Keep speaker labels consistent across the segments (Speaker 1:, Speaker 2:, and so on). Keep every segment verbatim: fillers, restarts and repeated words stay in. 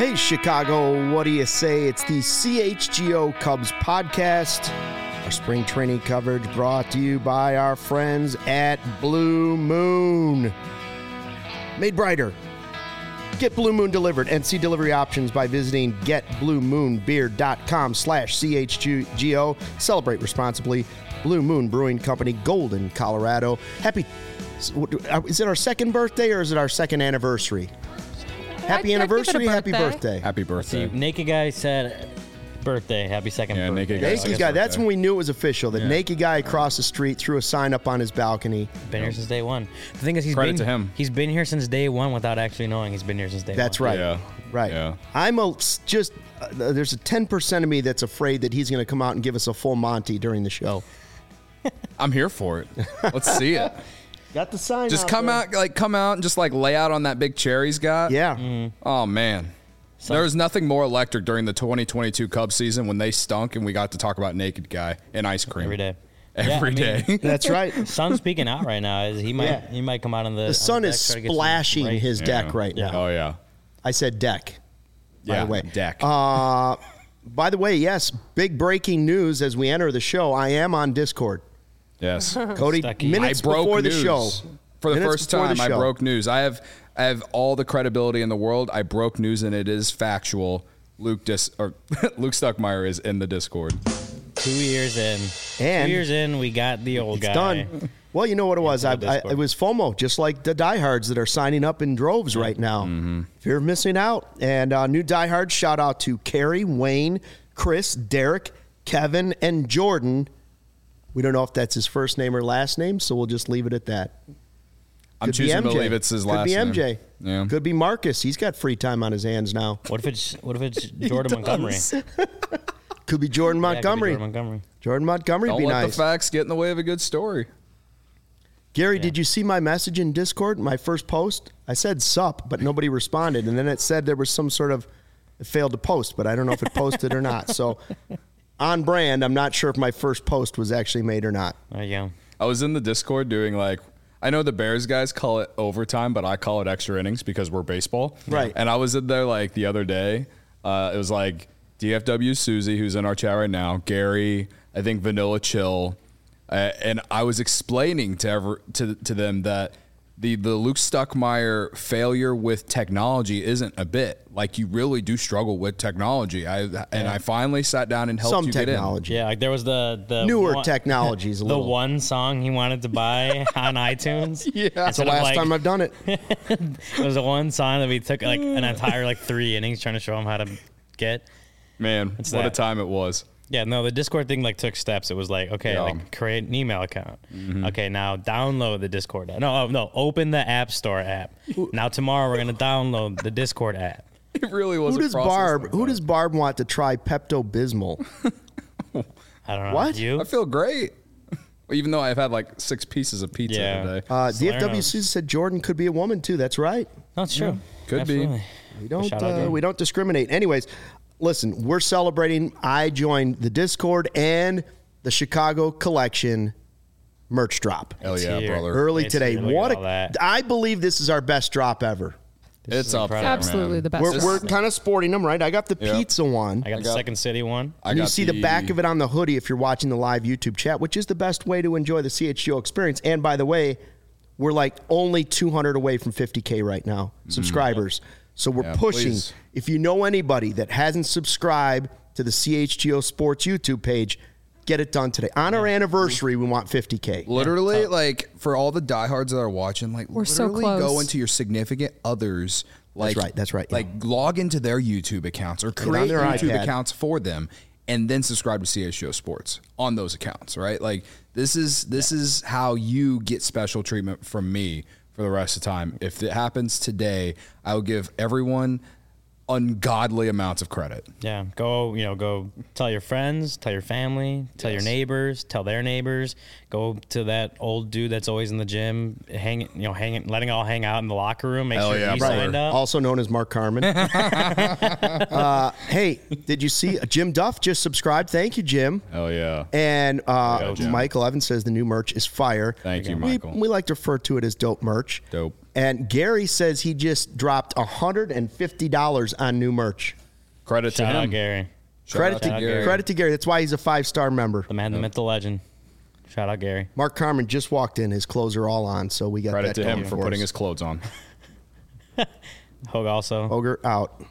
Speaker 1: Hey, Chicago, what do you say? It's the C H G O Cubs podcast. Our spring training coverage brought to you by our friends at Blue Moon. Made brighter. Get Blue Moon delivered and see delivery options by visiting get blue moon beer dot com slash C H G O. Celebrate responsibly. Blue Moon Brewing Company, Golden, Colorado. Happy, is it our second birthday or is it our second anniversary? Happy
Speaker 2: I'd,
Speaker 1: anniversary,
Speaker 2: I'd
Speaker 1: happy birthday.
Speaker 3: Happy birthday.
Speaker 4: See, Naked Guy said birthday, happy second
Speaker 3: Yeah,
Speaker 4: birthday.
Speaker 3: Naked Guy.
Speaker 1: Naked Guy, that's when we knew it was official. The
Speaker 3: Yeah.
Speaker 1: naked guy across the street threw a sign up on his balcony.
Speaker 4: Been here since day one. The thing is, he's
Speaker 3: Credit
Speaker 4: been,
Speaker 3: to him.
Speaker 4: He's been here since day one without actually knowing he's been here since day
Speaker 1: That's
Speaker 4: one.
Speaker 1: right.
Speaker 3: Yeah.
Speaker 1: Right.
Speaker 3: Yeah.
Speaker 1: I'm a, just, uh, there's a ten percent of me that's afraid that he's going to come out and give us a full Monty during the show.
Speaker 3: I'm here for it. Let's see it.
Speaker 1: Got the sign
Speaker 3: Just
Speaker 1: out
Speaker 3: come
Speaker 1: there.
Speaker 3: out, like come out and just like lay out on that big chair he's got.
Speaker 1: Yeah.
Speaker 4: Mm.
Speaker 3: Oh man.
Speaker 4: So-
Speaker 3: there was nothing more electric during the twenty twenty-two Cubs season when they stunk and we got to talk about Naked Guy and ice cream
Speaker 4: Every day.
Speaker 3: Every
Speaker 4: Yeah, I
Speaker 3: day.
Speaker 4: mean,
Speaker 1: That's right.
Speaker 4: Sun's peeking out right now. He might
Speaker 1: Yeah.
Speaker 4: he might come out on the
Speaker 1: The
Speaker 4: on
Speaker 1: sun
Speaker 4: the
Speaker 1: is
Speaker 4: deck, try to get some
Speaker 1: splashing
Speaker 4: rays.
Speaker 1: his deck
Speaker 3: Yeah.
Speaker 1: right now.
Speaker 3: Oh yeah.
Speaker 1: I said deck. By
Speaker 3: Yeah.
Speaker 1: the way.
Speaker 3: Deck.
Speaker 1: Uh, by the way, yes, big breaking news as we enter the show. I am on Discord.
Speaker 3: Yes.
Speaker 1: Cody,
Speaker 4: Stucky.
Speaker 1: minutes
Speaker 3: I broke
Speaker 1: before the
Speaker 3: news.
Speaker 1: show.
Speaker 3: For the
Speaker 1: Minutes
Speaker 3: first
Speaker 1: before the
Speaker 3: time, I
Speaker 1: show.
Speaker 3: broke news. I have I have all the credibility in the world. I broke news and it is factual. Luke Dis or Luke Stuckmeyer is in the Discord.
Speaker 4: Two years in.
Speaker 1: And
Speaker 4: Two years in, we got the old
Speaker 1: It's
Speaker 4: guy.
Speaker 1: done. Well, you know what it was? I,
Speaker 4: Into the
Speaker 1: I,
Speaker 4: Discord.
Speaker 1: it was FOMO, just like the diehards that are signing up in droves right now.
Speaker 3: Mm-hmm.
Speaker 1: Fear of missing out. And uh, new diehards, shout out to Carrie, Wayne, Chris, Derek, Kevin, and Jordan. We don't know if that's his first name or last name, so we'll just leave it at that.
Speaker 3: I'm
Speaker 1: Could be
Speaker 3: choosing to
Speaker 1: M J.
Speaker 3: believe it's his last
Speaker 1: Could be
Speaker 3: name.
Speaker 1: M J.
Speaker 3: Yeah.
Speaker 1: Could be Marcus. He's got free time on his hands now.
Speaker 4: What if it's what if it's Jordan Montgomery?
Speaker 1: Could be Jordan
Speaker 4: Yeah, it could be
Speaker 1: Montgomery.
Speaker 4: Jordan Montgomery.
Speaker 1: Jordan Montgomery would
Speaker 3: Don't
Speaker 1: be
Speaker 3: let
Speaker 1: nice.
Speaker 3: the facts get in the way of a good story.
Speaker 1: Gary,
Speaker 4: Yeah.
Speaker 1: did you see my message in Discord, my first post? I said sup, but nobody responded. And then it said there was some sort of, it failed to post, but I don't know if it posted or not. So on brand, I'm not sure if my first post was actually made or not.
Speaker 4: There you go.
Speaker 3: I was in the Discord doing like, I know the Bears guys call it overtime, but I call it extra innings because we're baseball.
Speaker 1: Right.
Speaker 3: And I was in there like the other day. Uh, it was like D F W Susie, who's in our chat right now, Gary, I think Vanilla Chill. Uh, and I was explaining to, ever, to to them that the, the Luke Stuckmeyer failure with technology isn't a bit. Like, you really do struggle with technology. I And I finally sat down and helped
Speaker 1: Some
Speaker 3: you get in.
Speaker 1: technology.
Speaker 4: Yeah, like there was the the
Speaker 1: Newer
Speaker 4: one,
Speaker 1: technologies a
Speaker 4: the
Speaker 1: little.
Speaker 4: one song he wanted to buy on iTunes.
Speaker 3: Yeah.
Speaker 1: That's the
Speaker 4: Instead of,
Speaker 1: last
Speaker 4: like-
Speaker 1: time I've done it.
Speaker 4: It was the one song that we took like an entire like three innings trying to show him how to get.
Speaker 3: Man,
Speaker 4: It's
Speaker 3: what a
Speaker 4: that.
Speaker 3: time it was.
Speaker 4: Yeah, no, the Discord thing like took steps. It was like, okay,
Speaker 3: Yeah.
Speaker 4: like create an email account.
Speaker 1: Mm-hmm.
Speaker 4: Okay, now download the Discord app. No, oh, no, open the App Store app. Now tomorrow we're gonna download the Discord app.
Speaker 3: It really was.
Speaker 1: Who
Speaker 3: a
Speaker 1: does
Speaker 3: process
Speaker 1: Barb,
Speaker 3: like
Speaker 1: who
Speaker 3: that.
Speaker 1: does Barb want to try Pepto-Bismol?
Speaker 4: I don't know.
Speaker 1: What?
Speaker 4: You?
Speaker 3: I feel great. Even though I've had like six pieces of pizza
Speaker 4: Yeah.
Speaker 3: today.
Speaker 1: Uh, D F W
Speaker 4: Salerno.
Speaker 1: Susan said Jordan could be a woman too. That's right.
Speaker 4: No, it's true.
Speaker 3: Could be.
Speaker 4: Absolutely.
Speaker 1: We don't
Speaker 4: Shout out
Speaker 1: uh,
Speaker 4: there.
Speaker 1: we don't discriminate. Anyways, listen, we're celebrating. I joined the Discord and the Chicago Collection merch drop
Speaker 3: Hell yeah,
Speaker 4: here.
Speaker 3: brother.
Speaker 1: early
Speaker 4: It's
Speaker 1: today.
Speaker 4: here. Look
Speaker 1: What
Speaker 4: at all
Speaker 1: a,
Speaker 4: that.
Speaker 1: I believe this is our best drop ever.
Speaker 4: This
Speaker 3: It's
Speaker 4: is
Speaker 3: up there,
Speaker 4: incredible.
Speaker 2: Absolutely
Speaker 3: man.
Speaker 2: the best.
Speaker 1: We're,
Speaker 2: This-
Speaker 1: we're kind of sporting them, right? I got the
Speaker 3: Yeah.
Speaker 1: pizza one.
Speaker 4: I got
Speaker 3: I
Speaker 4: the
Speaker 3: got-
Speaker 4: Second City one.
Speaker 3: I
Speaker 1: And you
Speaker 3: got
Speaker 1: see the back of it on the hoodie if you're watching the live YouTube chat, which is the best way to enjoy the C H G O experience. And by the way, we're like only two hundred away from fifty K right now, subscribers. So we're
Speaker 3: Yeah,
Speaker 1: pushing.
Speaker 3: please.
Speaker 1: If you know anybody that hasn't subscribed to the C H G O Sports YouTube page, get it done today. On our anniversary, we want fifty K.
Speaker 3: Literally, like for all the diehards that are watching, like
Speaker 2: We're so
Speaker 3: literally
Speaker 2: close.
Speaker 3: go into your significant others. Like,
Speaker 1: right, that's right, yeah.
Speaker 3: Like log into their YouTube accounts or
Speaker 1: on
Speaker 3: create
Speaker 1: their
Speaker 3: YouTube
Speaker 1: iPad.
Speaker 3: accounts for them, and then subscribe to C H G O Sports on those accounts. Right? Like this is this is how you get special treatment from me for the rest of the time. If it happens today, I will give everyone ungodly amounts of credit.
Speaker 4: Yeah, go, you know, go tell your friends, tell your family, tell your
Speaker 3: Yes.
Speaker 4: neighbors, tell their neighbors. Go to that old dude that's always in the gym, hanging, you know, hanging, letting it all hang out in the locker room. Make
Speaker 3: Hell
Speaker 4: sure
Speaker 3: yeah,
Speaker 4: he's
Speaker 3: brother.
Speaker 4: signed up.
Speaker 1: Also known as Mark Carmen. uh, hey, did you see uh, Jim Duff just subscribed? Thank you, Jim.
Speaker 3: Hell yeah.
Speaker 1: And uh,
Speaker 3: Go, Jim.
Speaker 1: Michael Evans says the new merch is fire.
Speaker 3: Thank you,
Speaker 1: We,
Speaker 3: Michael.
Speaker 1: we like to refer to it as dope merch.
Speaker 3: Dope.
Speaker 1: And Gary says he just dropped one hundred fifty dollars on new merch.
Speaker 3: Credit
Speaker 4: Shout
Speaker 3: to
Speaker 4: out
Speaker 3: him.
Speaker 4: Gary.
Speaker 3: Shout
Speaker 1: Credit
Speaker 3: out
Speaker 1: to,
Speaker 3: to
Speaker 1: Gary.
Speaker 3: Gary.
Speaker 1: Credit to Gary. That's why he's a five-star member.
Speaker 4: The man, the myth, the legend. Shout out Gary.
Speaker 1: Mark Carmen just walked in. His clothes are all on, so we got
Speaker 3: Credit
Speaker 1: that
Speaker 3: to him
Speaker 1: going
Speaker 3: for
Speaker 1: us.
Speaker 3: putting his clothes on.
Speaker 4: Hogue also.
Speaker 1: Ogre out.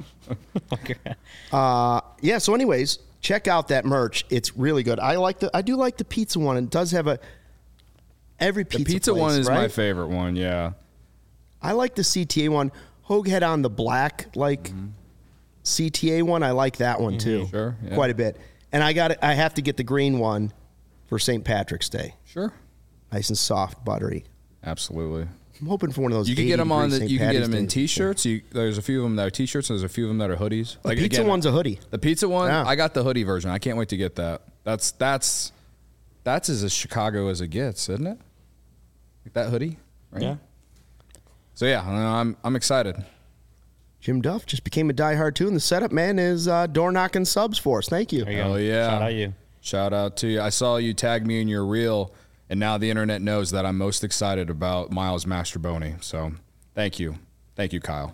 Speaker 1: uh, yeah. So, anyways, check out that merch. It's really good. I like the. I do like the pizza one. It does have a. Every
Speaker 3: The
Speaker 1: pizza.
Speaker 3: pizza
Speaker 1: place,
Speaker 3: one is
Speaker 1: right?
Speaker 3: my favorite one. Yeah.
Speaker 1: I like the C T A one. Hogue had on the black like
Speaker 3: Mm-hmm.
Speaker 1: C T A one. I like that one too.
Speaker 3: Sure, yeah.
Speaker 1: Quite a bit. And I got. I have to get the green one for Saint Patrick's Day.
Speaker 3: Sure.
Speaker 1: Nice and soft, buttery.
Speaker 3: Absolutely.
Speaker 1: I'm hoping for one of those.
Speaker 3: You can
Speaker 1: eighty
Speaker 3: get them on the.
Speaker 1: degree Saint
Speaker 3: You can get
Speaker 1: Patty's
Speaker 3: them in
Speaker 1: Day.
Speaker 3: t-shirts. You, there's a few of them that are t-shirts, and there's a few of them that are hoodies.
Speaker 1: The pizza
Speaker 3: again,
Speaker 1: one's a hoodie.
Speaker 3: The pizza one,
Speaker 1: Yeah.
Speaker 3: I got the hoodie version. I can't wait to get that. That's that's that's as Chicago as it gets, isn't it? Like that hoodie, right?
Speaker 4: Yeah.
Speaker 3: So yeah, I'm I'm excited.
Speaker 1: Jim Duff just became a diehard too, and the setup man is uh, door knocking subs for us. Thank you.
Speaker 4: There you
Speaker 3: Oh
Speaker 4: go.
Speaker 3: yeah.
Speaker 4: Shout out you.
Speaker 3: Shout out to you. I saw you tag me in your reel, and now the internet knows that I'm most excited about Miles Mastroboni. So thank you. Thank you, Kyle.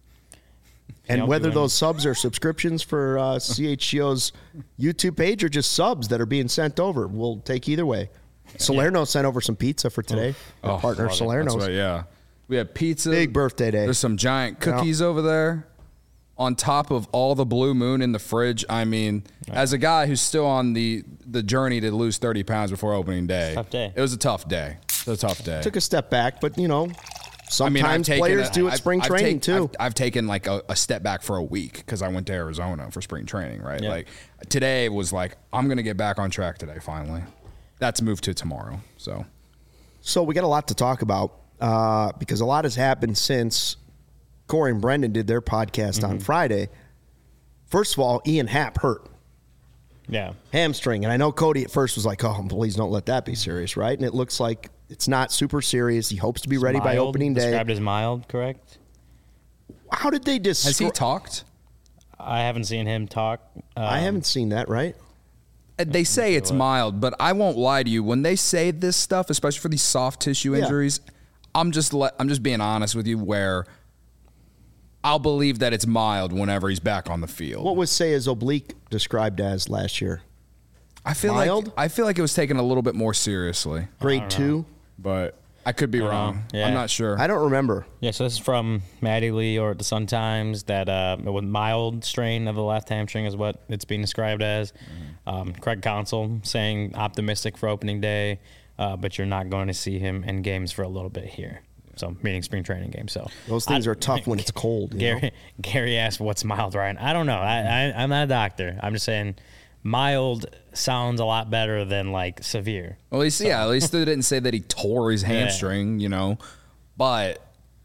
Speaker 1: And
Speaker 4: I'll
Speaker 1: whether
Speaker 4: do
Speaker 1: those subs are subscriptions for uh, C H G O's YouTube page or just subs that are being sent over, we'll take either way. Salerno sent over some pizza for today. Our partner
Speaker 3: love it.
Speaker 1: Salerno's.
Speaker 3: That's right, yeah. We have pizza.
Speaker 1: Big birthday day.
Speaker 3: There's some giant cookies over there on top of all the Blue Moon in the fridge. I mean, as a guy who's still on the, the journey to lose thirty pounds before opening day,
Speaker 4: Tough day.
Speaker 3: it was a tough day. It was a tough day.
Speaker 1: Took a step back, but you know,
Speaker 3: I
Speaker 1: sometimes
Speaker 3: mean, I've taken
Speaker 1: players
Speaker 3: a-
Speaker 1: do it
Speaker 3: I've-
Speaker 1: spring
Speaker 3: I've
Speaker 1: training
Speaker 3: take-
Speaker 1: too.
Speaker 3: I've, I've taken like a, a step back for a week because I went to Arizona for spring training, right?
Speaker 4: Yeah.
Speaker 3: Like today was like, I'm going to get back on track today finally. That's moved to tomorrow. So
Speaker 1: So we got a lot to talk about uh, because a lot has happened since Corey and Brendan did their podcast
Speaker 3: Mm-hmm.
Speaker 1: on Friday. First of all, Ian Happ hurt.
Speaker 4: Yeah.
Speaker 1: Hamstring. And I know Cody at first was like, oh, please don't let that be serious, right? And it looks like it's not super serious. He hopes to be ready by
Speaker 4: Mild,
Speaker 1: opening day.
Speaker 4: Described as mild, correct?
Speaker 1: How did they
Speaker 3: has he
Speaker 1: describe?
Speaker 3: talked?
Speaker 4: I haven't seen him talk. Um,
Speaker 1: I haven't seen that, right?
Speaker 3: Uh, They say it's mild, but I won't lie to you. When they say this stuff, especially for these soft tissue
Speaker 1: Yeah.
Speaker 3: injuries, I'm just le- I'm just being honest with you. Where I'll believe that it's mild whenever he's back on the field.
Speaker 1: What was Say's oblique described as last year?
Speaker 3: I feel
Speaker 1: mild?
Speaker 3: like I feel like it was taken a little bit more seriously,
Speaker 1: Grade two?
Speaker 3: but I could be wrong.
Speaker 4: Yeah.
Speaker 3: I'm not sure.
Speaker 1: I don't remember.
Speaker 4: Yeah, so this is from Maddie Lee or the Sun Times that uh, with mild strain of the left hamstring is what it's being described as. Um, Craig Counsell saying optimistic for opening day, uh, but you're not going to see him in games for a little bit here. So meaning spring training games. So
Speaker 1: Those things
Speaker 4: I-
Speaker 1: are tough when it's cold. You
Speaker 4: Gary
Speaker 1: know?
Speaker 4: Gary asked, "What's mild, Ryan?" I don't know. I, I I'm not a doctor. I'm just saying, mild sounds a lot better than like severe.
Speaker 3: Well, at least yeah, at least they didn't say that he tore his hamstring, you know. But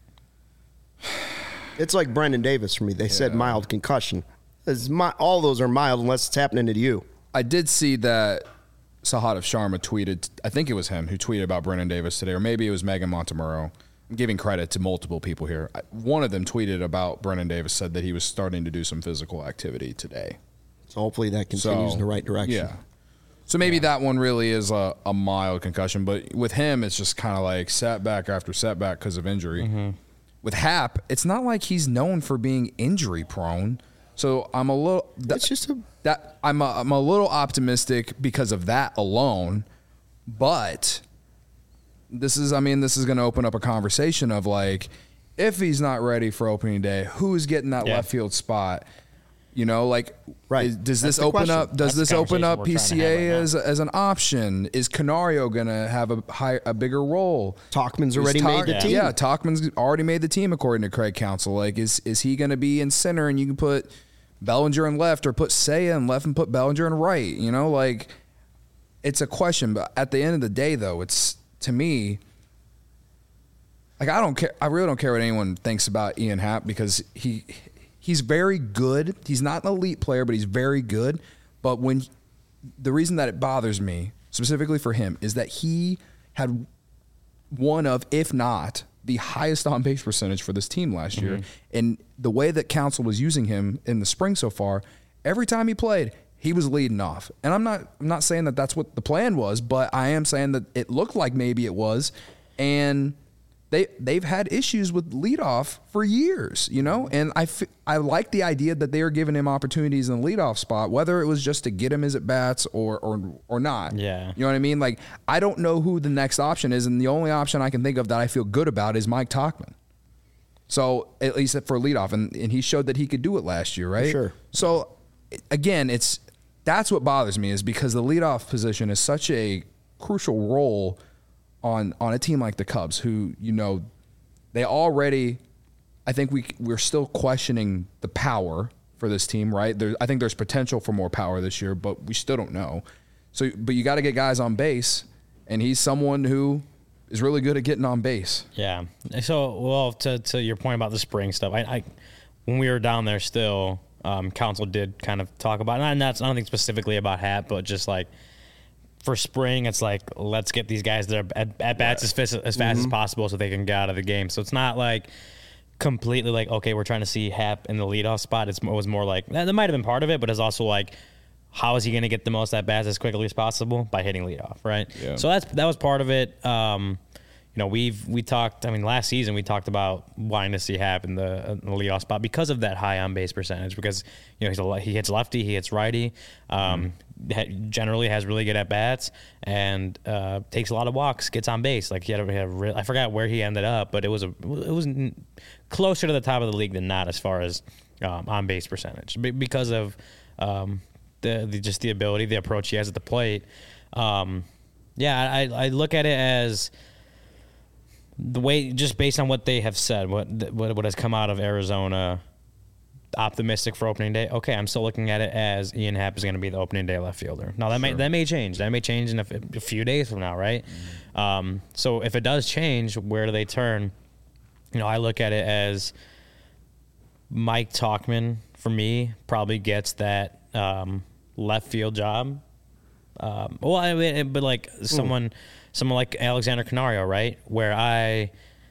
Speaker 1: It's like Brendan Davis for me. They said mild concussion. It's mi- all those are mild unless it's happening to you.
Speaker 3: I did see that Sahadev Sharma tweeted. I think it was him who tweeted about Brendan Davis today, or maybe it was Megan Montemurro. I'm giving credit to multiple people here. I- One of them tweeted about Brendan Davis, said that he was starting to do some physical activity today.
Speaker 1: So hopefully that continues
Speaker 3: So,
Speaker 1: in the right direction.
Speaker 3: Yeah. So maybe that one really is a, a mild concussion, but with him, it's just kind of like setback after setback because of injury.
Speaker 1: Mm-hmm.
Speaker 3: With Hap, it's not like he's known for being injury prone. So I'm a little. That,
Speaker 1: It's just a
Speaker 3: that I'm a, I'm a little optimistic because of that alone, but this is I mean this is going to open up a conversation of like if he's not ready for opening day, who's getting that
Speaker 4: Yeah.
Speaker 3: left field spot? You know, like
Speaker 1: Right.
Speaker 3: is- does
Speaker 1: That's
Speaker 3: this
Speaker 1: the
Speaker 3: open
Speaker 1: question.
Speaker 3: up? Does
Speaker 4: That's the
Speaker 3: this open
Speaker 4: conversation
Speaker 3: up
Speaker 4: we're trying to
Speaker 3: P C
Speaker 4: have
Speaker 3: A
Speaker 4: right now.
Speaker 3: as as an option? Is Canario going to have a high, a bigger role?
Speaker 1: Talkman's
Speaker 3: Is
Speaker 1: already
Speaker 3: Talk-
Speaker 1: made the team.
Speaker 3: Yeah, Talkman's already made the team according to Craig Counsell. Like, is is he going to be in center and you can put Bellinger in left or put Saya in left and put Bellinger in right? You know, like it's a question. But at the end of the day, though, it's to me. Like I don't care. I really don't care what anyone thinks about Ian Happ because he he's very good. He's not an elite player, but he's very good. But when the reason that it bothers me specifically for him is that he had one of, if not the highest on base percentage for this team last year, and the way that Counsell was using him in the spring so far, every time he played, he was leading off. And I'm not I'm not saying that that's what the plan was, but I am saying that it looked like maybe it was, and they they've had issues with leadoff for years, you know, and I, f- I like the idea that they are giving him opportunities in the leadoff spot, whether it was just to get him his at bats or or or not.
Speaker 4: Yeah,
Speaker 3: you know what I mean. Like I don't know who the next option is, and the only option I can think of that I feel good about is Mike Tauchman. So at least for leadoff, and and he showed that he could do it last year, right?
Speaker 1: Sure.
Speaker 3: So again, it's that's what bothers me is because the leadoff position is such a crucial role on on a team like the Cubs, who, you know, they already, I think we we're still questioning the power for this team, right? There, I think there's potential for more power this year, but we still don't know. So, but you got to get guys on base, and he's someone who is really good at getting on base.
Speaker 4: Yeah. So, well, to to your point about the spring stuff, I, I when we were down there still, um, Council did kind of talk about, and that's nothing specifically about Happ, but just like, for spring, it's like, let's get these guys their at, at bats as fast, as, fast mm-hmm. as possible so they can get out of the game. So it's not like completely like, okay, we're trying to see Happ in the leadoff spot. It's, it was more like, that might have been part of it, but it's also like, how is he going to get the most at bats as quickly as possible? By hitting leadoff, right? Yeah. So that's that was part of it. Um, you know, we've we talked. I mean, last season we talked about wanting to see Happ in the, in the leadoff spot because of that high on base percentage. Because you know he's a, he hits lefty, he hits righty. Um, mm. Generally has really good at bats and uh, takes a lot of walks, gets on base. Like he had, a, he had a real, I forgot where he ended up, but it was a it was closer to the top of the league than not as far as um, on base percentage because of um, the, the just the ability, the approach he has at the plate. Um, yeah, I, I look at it as the way, just based on what they have said, what what what has come out of Arizona, optimistic for opening day. Okay, I'm still looking at it as Ian Happ is going to be the opening day left fielder. Now that sure. may that may change. That may change in a, a few days from now, right? Mm-hmm. Um, so if it does change, where do they turn? You know, I look at it as Mike Tauchman for me probably gets that um, left field job. Um, well, I mean, but like someone. Ooh. Someone like Alexander Canario, right? Where I,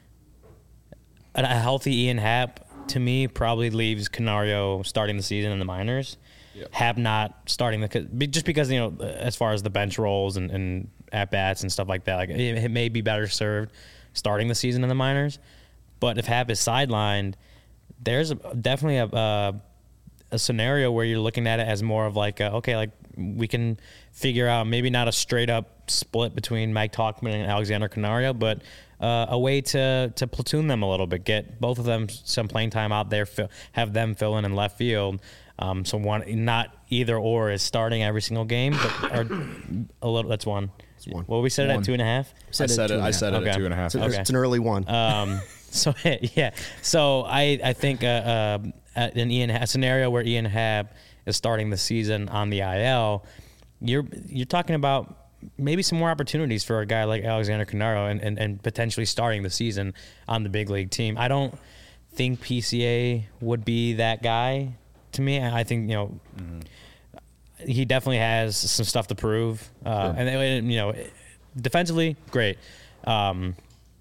Speaker 4: a healthy Ian Happ, to me, probably leaves Canario starting the season in the minors. Yep. Happ not starting the, just because, you know, as far as the bench roles and, and at-bats and stuff like that, like it, it may be better served starting the season in the minors. But if Happ is sidelined, there's a, definitely a, a a scenario where you're looking at it as more of like, a, okay, like we can figure out maybe not a straight up split between Mike Tauchman and Alexander Canario, but uh, a way to to platoon them a little bit, get both of them some playing time out there, fill, have them fill in in left field. Um, so one, not either or is starting every single game, but or a little. That's one. It's one. Well, we said one. It at two and a half.
Speaker 3: I said it. I said it, it at two and a half.
Speaker 1: It's, okay. It's an early one.
Speaker 4: Um, so yeah. So I I think uh, uh, an Ian a scenario where Ian Happ is starting the season on the I L, you're you're talking about maybe some more opportunities for a guy like Alexander Canario and, and, and potentially starting the season on the big league team. I don't think P C A would be that guy to me. I think, you know, mm-hmm. he definitely has some stuff to prove. Uh, sure. And, you know, defensively, great. Um,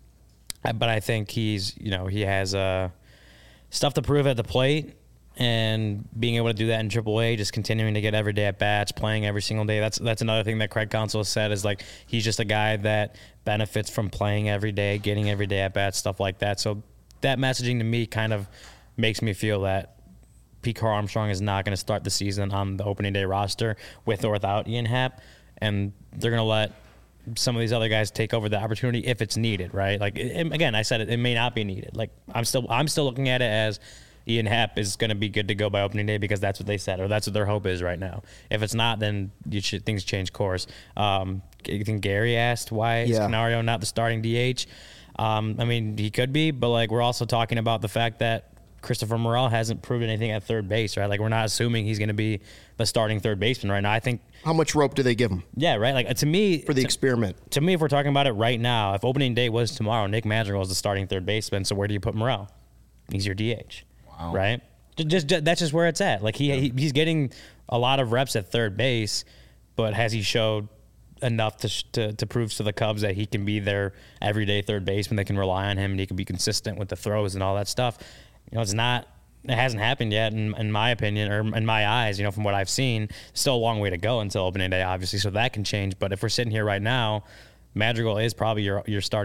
Speaker 4: but I think he's, you know, he has uh, stuff to prove at the plate. And being able to do that in triple A, just continuing to get every day at bats, playing every single day. That's that's another thing that Craig Counsell has said is like he's just a guy that benefits from playing every day, getting every day at bats, stuff like that. So that messaging to me kind of makes me feel that Pete Crow Armstrong is not going to start the season on the opening day roster with or without Ian Happ, and they're going to let some of these other guys take over the opportunity if it's needed, right? Like it, again, I said it, it may not be needed. Like I'm still I'm still looking at it as Ian Happ is going to be good to go by opening day because that's what they said, or that's what their hope is right now. If it's not, then you should, things change course. Um, I think Gary asked why is yeah. Canario not the starting D H. Um, I mean, he could be, but like we're also talking about the fact that Christopher Morel hasn't proved anything at third base, right? Like we're not assuming he's going to be the starting third baseman right now. I think.
Speaker 1: How much rope do they give him?
Speaker 4: Yeah, right. Like to me,
Speaker 1: for the
Speaker 4: to,
Speaker 1: experiment.
Speaker 4: To me, if we're talking about it right now, if opening day was tomorrow, Nick Madrigal is the starting third baseman. So where do you put Morel? He's your D H, wow. right? Just, just that's just where it's at. Like he, yeah. he he's getting a lot of reps at third base, but has he showed enough to, to to prove to the Cubs that he can be their everyday third baseman? They can rely on him and he can be consistent with the throws and all that stuff. You know, it's not. It hasn't happened yet, in, in my opinion, or in my eyes. You know, from what I've seen, still a long way to go until opening day, obviously. So that can change. But if we're sitting here right now, Madrigal is probably your your starting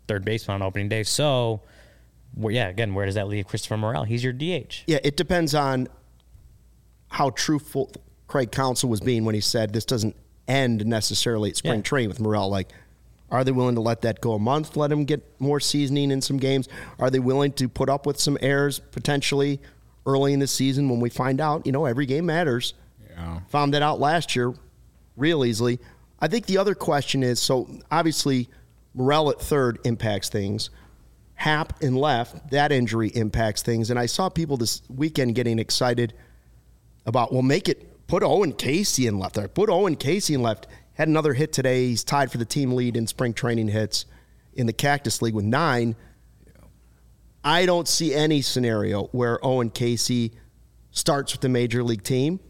Speaker 4: third baseman on opening day. So, well, yeah, again, where does that leave Christopher Morel? He's your D H.
Speaker 1: Yeah, it depends on how truthful Craig Counsell was being when he said this doesn't end necessarily at spring
Speaker 4: Yeah.
Speaker 1: training with Morel. Like, are they willing to let that go a month, let him get more seasoning in some games? Are they willing to put up with some errors potentially early in the season when we find out, you know, every game matters?
Speaker 3: Yeah.
Speaker 1: Found that out last year real easily. I think the other question is, so obviously Morel at third impacts things. Happ in left, that injury impacts things. And I saw people this weekend getting excited about, well, make it, put Owen Casey in left there. Put Owen Casey in left. Had another hit today. He's tied for the team lead in spring training hits in the Cactus League with nine. I don't see any scenario where Owen Casey starts with the major league team.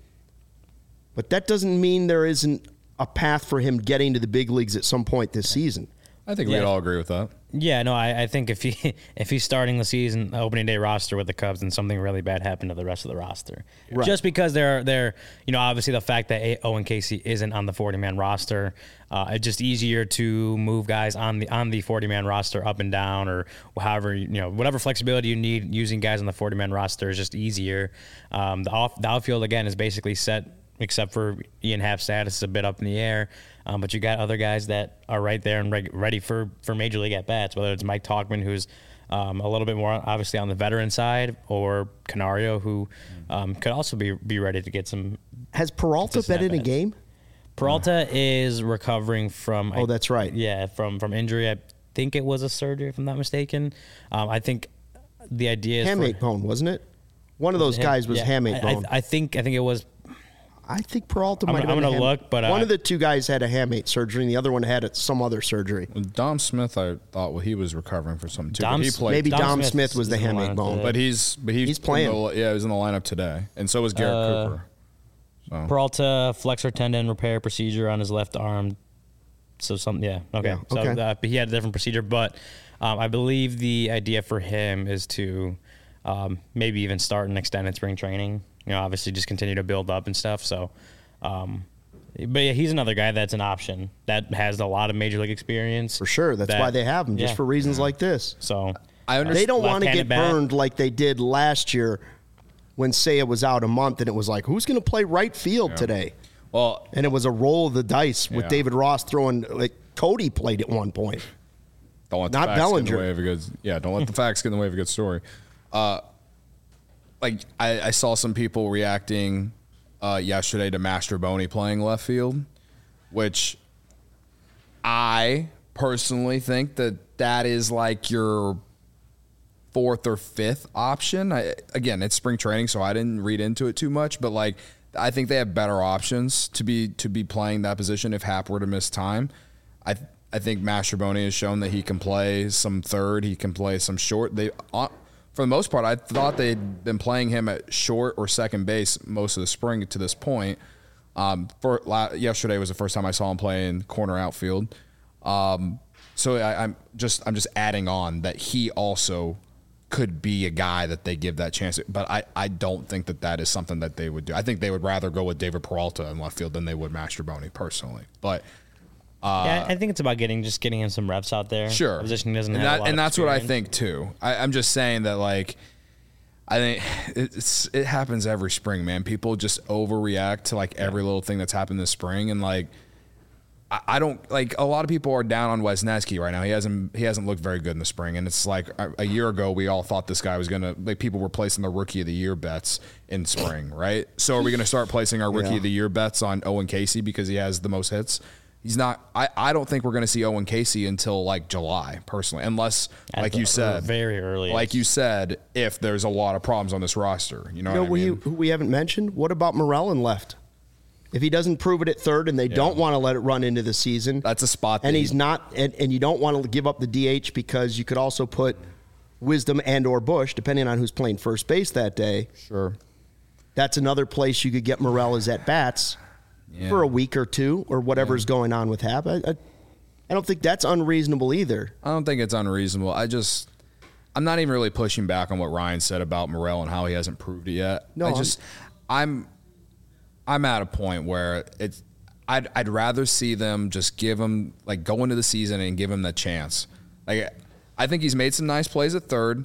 Speaker 1: But that doesn't mean there isn't a path for him getting to the big leagues at some point this season.
Speaker 3: I think
Speaker 4: Yeah.
Speaker 3: we'd all agree with that.
Speaker 4: Yeah, no, I, I think if he if he's starting the season the opening day roster with the Cubs, then something really bad happened to the rest of the roster.
Speaker 1: Right.
Speaker 4: Just because they're they're you know obviously the fact that Owen Casey isn't on the forty man roster, uh, it's just easier to move guys on the on the forty man roster up and down or however you know whatever flexibility you need using guys on the forty man roster is just easier. Um, the off the outfield again is basically set. Except for Ian Happ's status is a bit up in the air. Um, but you got other guys that are right there and reg- ready for, for Major League at-bats, whether it's Mike Tauchman, who's um, a little bit more obviously on the veteran side, or Canario, who um, could also be be ready to get some.
Speaker 1: Has Peralta
Speaker 4: consistent
Speaker 1: been in a
Speaker 4: at-bats.
Speaker 1: game?
Speaker 4: Peralta is recovering from.
Speaker 1: Oh, that's right.
Speaker 4: Yeah, from, from injury. I think it was a surgery, if I'm not mistaken. Um, I think the idea is
Speaker 1: Hamate
Speaker 4: for,
Speaker 1: bone, wasn't it? One of those guys was
Speaker 4: yeah,
Speaker 1: hamate
Speaker 4: I,
Speaker 1: bone.
Speaker 4: I, I think I think it was.
Speaker 1: I think Peralta
Speaker 4: I'm
Speaker 1: might
Speaker 4: gonna-
Speaker 1: have been
Speaker 4: I'm
Speaker 1: a
Speaker 4: gonna
Speaker 1: ham-
Speaker 4: look, but,
Speaker 1: one
Speaker 4: uh,
Speaker 1: of the two guys had a hamate surgery, and the other one had it- some other surgery.
Speaker 3: Dom Smith, I thought, well, he was recovering for something too.
Speaker 4: Dom
Speaker 3: but he
Speaker 4: S-
Speaker 3: played,
Speaker 1: Maybe
Speaker 4: Dom
Speaker 1: Dom,
Speaker 4: Smith
Speaker 1: Smith was the
Speaker 4: is in the
Speaker 1: hamate
Speaker 4: lineup
Speaker 1: bone,
Speaker 4: today.
Speaker 3: but he's but he's,
Speaker 1: He's playing.
Speaker 3: in the- yeah, he was in the lineup today, and so was Garrett
Speaker 4: Uh,
Speaker 3: Cooper. So
Speaker 4: Peralta flexor tendon repair procedure on his left arm. So something, yeah, okay.
Speaker 1: Yeah,
Speaker 4: So
Speaker 1: okay.
Speaker 4: uh, he had a different procedure, but um, I believe the idea for him is to um, maybe even start an extended spring training. You know, obviously just continue to build up and stuff. So, um, but yeah, he's another guy that's an option that has a lot of major league experience
Speaker 1: for sure. That's
Speaker 4: that-
Speaker 1: why they have him, just
Speaker 4: yeah.
Speaker 1: for reasons like this.
Speaker 4: So
Speaker 3: I understand.
Speaker 1: They don't want to
Speaker 4: left-handed
Speaker 1: get
Speaker 4: bat.
Speaker 1: burned like they did last year when Seiya was out a month, and it was like, who's going to play right field today?
Speaker 3: Well,
Speaker 1: And it was a roll of the dice with
Speaker 3: Yeah.
Speaker 1: David Ross throwing, like Cody played at one point.
Speaker 3: don't let
Speaker 1: Not
Speaker 3: the facts get in
Speaker 1: Bellinger.
Speaker 3: the way of a good. Yeah, don't let the facts get in the way of a good story. Uh, like I, I saw some people reacting uh, yesterday to Mastroboni playing left field, which I personally think that that is like your fourth or fifth option. I, again, it's spring training, so I didn't read into it too much, but like I think they have better options to be to be playing that position if Happ were to miss time. I I think Mastroboni has shown that he can play some third, he can play some short. They uh, for the most part, I thought they'd been playing him at short or second base most of the spring to this point. Um, for la- yesterday was the first time I saw him play in corner outfield. Um, so I, I'm just I'm just adding on that he also could be a guy that they give that chance. But I, I don't think that that is something that they would do. I think they would rather go with David Peralta in left field than they would Mastroboni personally. But
Speaker 4: yeah, I think it's about getting just getting him some reps out there.
Speaker 3: sure,
Speaker 4: The position doesn't
Speaker 3: and
Speaker 4: have
Speaker 3: that,
Speaker 4: a lot
Speaker 3: and
Speaker 4: of
Speaker 3: that's what I
Speaker 4: experience.
Speaker 3: think too. I, I'm just saying that like. I think it's it happens every spring, man. People just overreact to like every little thing that's happened this spring, and like I, I don't like a lot of people are down on Wisniewski right now. He hasn't he hasn't looked very good in the spring, and it's like a, a year ago we all thought this guy was gonna like people were placing the rookie of the year bets in spring, right? So are we gonna start placing our rookie
Speaker 1: Yeah.
Speaker 3: of the year bets on Owen Casey because he has the most hits? He's not. I, I don't think we're going to see Owen Casey until like July, personally, unless,
Speaker 4: At
Speaker 3: like
Speaker 4: the-
Speaker 3: you said,
Speaker 4: very early.
Speaker 3: like you said, if there's a lot of problems on this roster, you know
Speaker 1: You know
Speaker 3: what I
Speaker 1: we,
Speaker 3: mean?
Speaker 1: who we haven't mentioned? What about Morel in left? If he doesn't prove it at third and they don't want to let it run into the season,
Speaker 3: That's a spot.
Speaker 1: and
Speaker 3: that
Speaker 1: he's
Speaker 3: he-
Speaker 1: not, and, and you don't want to give up the D H because you could also put Wisdom and or Bush, depending on who's playing first base that day.
Speaker 3: sure.
Speaker 1: That's another place you could get Morel as at bats
Speaker 3: Yeah.
Speaker 1: for a week or two or whatever's going on with Happ. I, I, I don't think that's unreasonable either.
Speaker 3: I don't think it's unreasonable. I just, I'm not even really pushing back on what Ryan said about Morel and how he hasn't proved it yet.
Speaker 1: No,
Speaker 3: I
Speaker 1: I'm-
Speaker 3: just, I'm, I'm at a point where it's, I'd, I'd rather see them just give him like go into the season and give him the chance. Like I think he's made some nice plays at third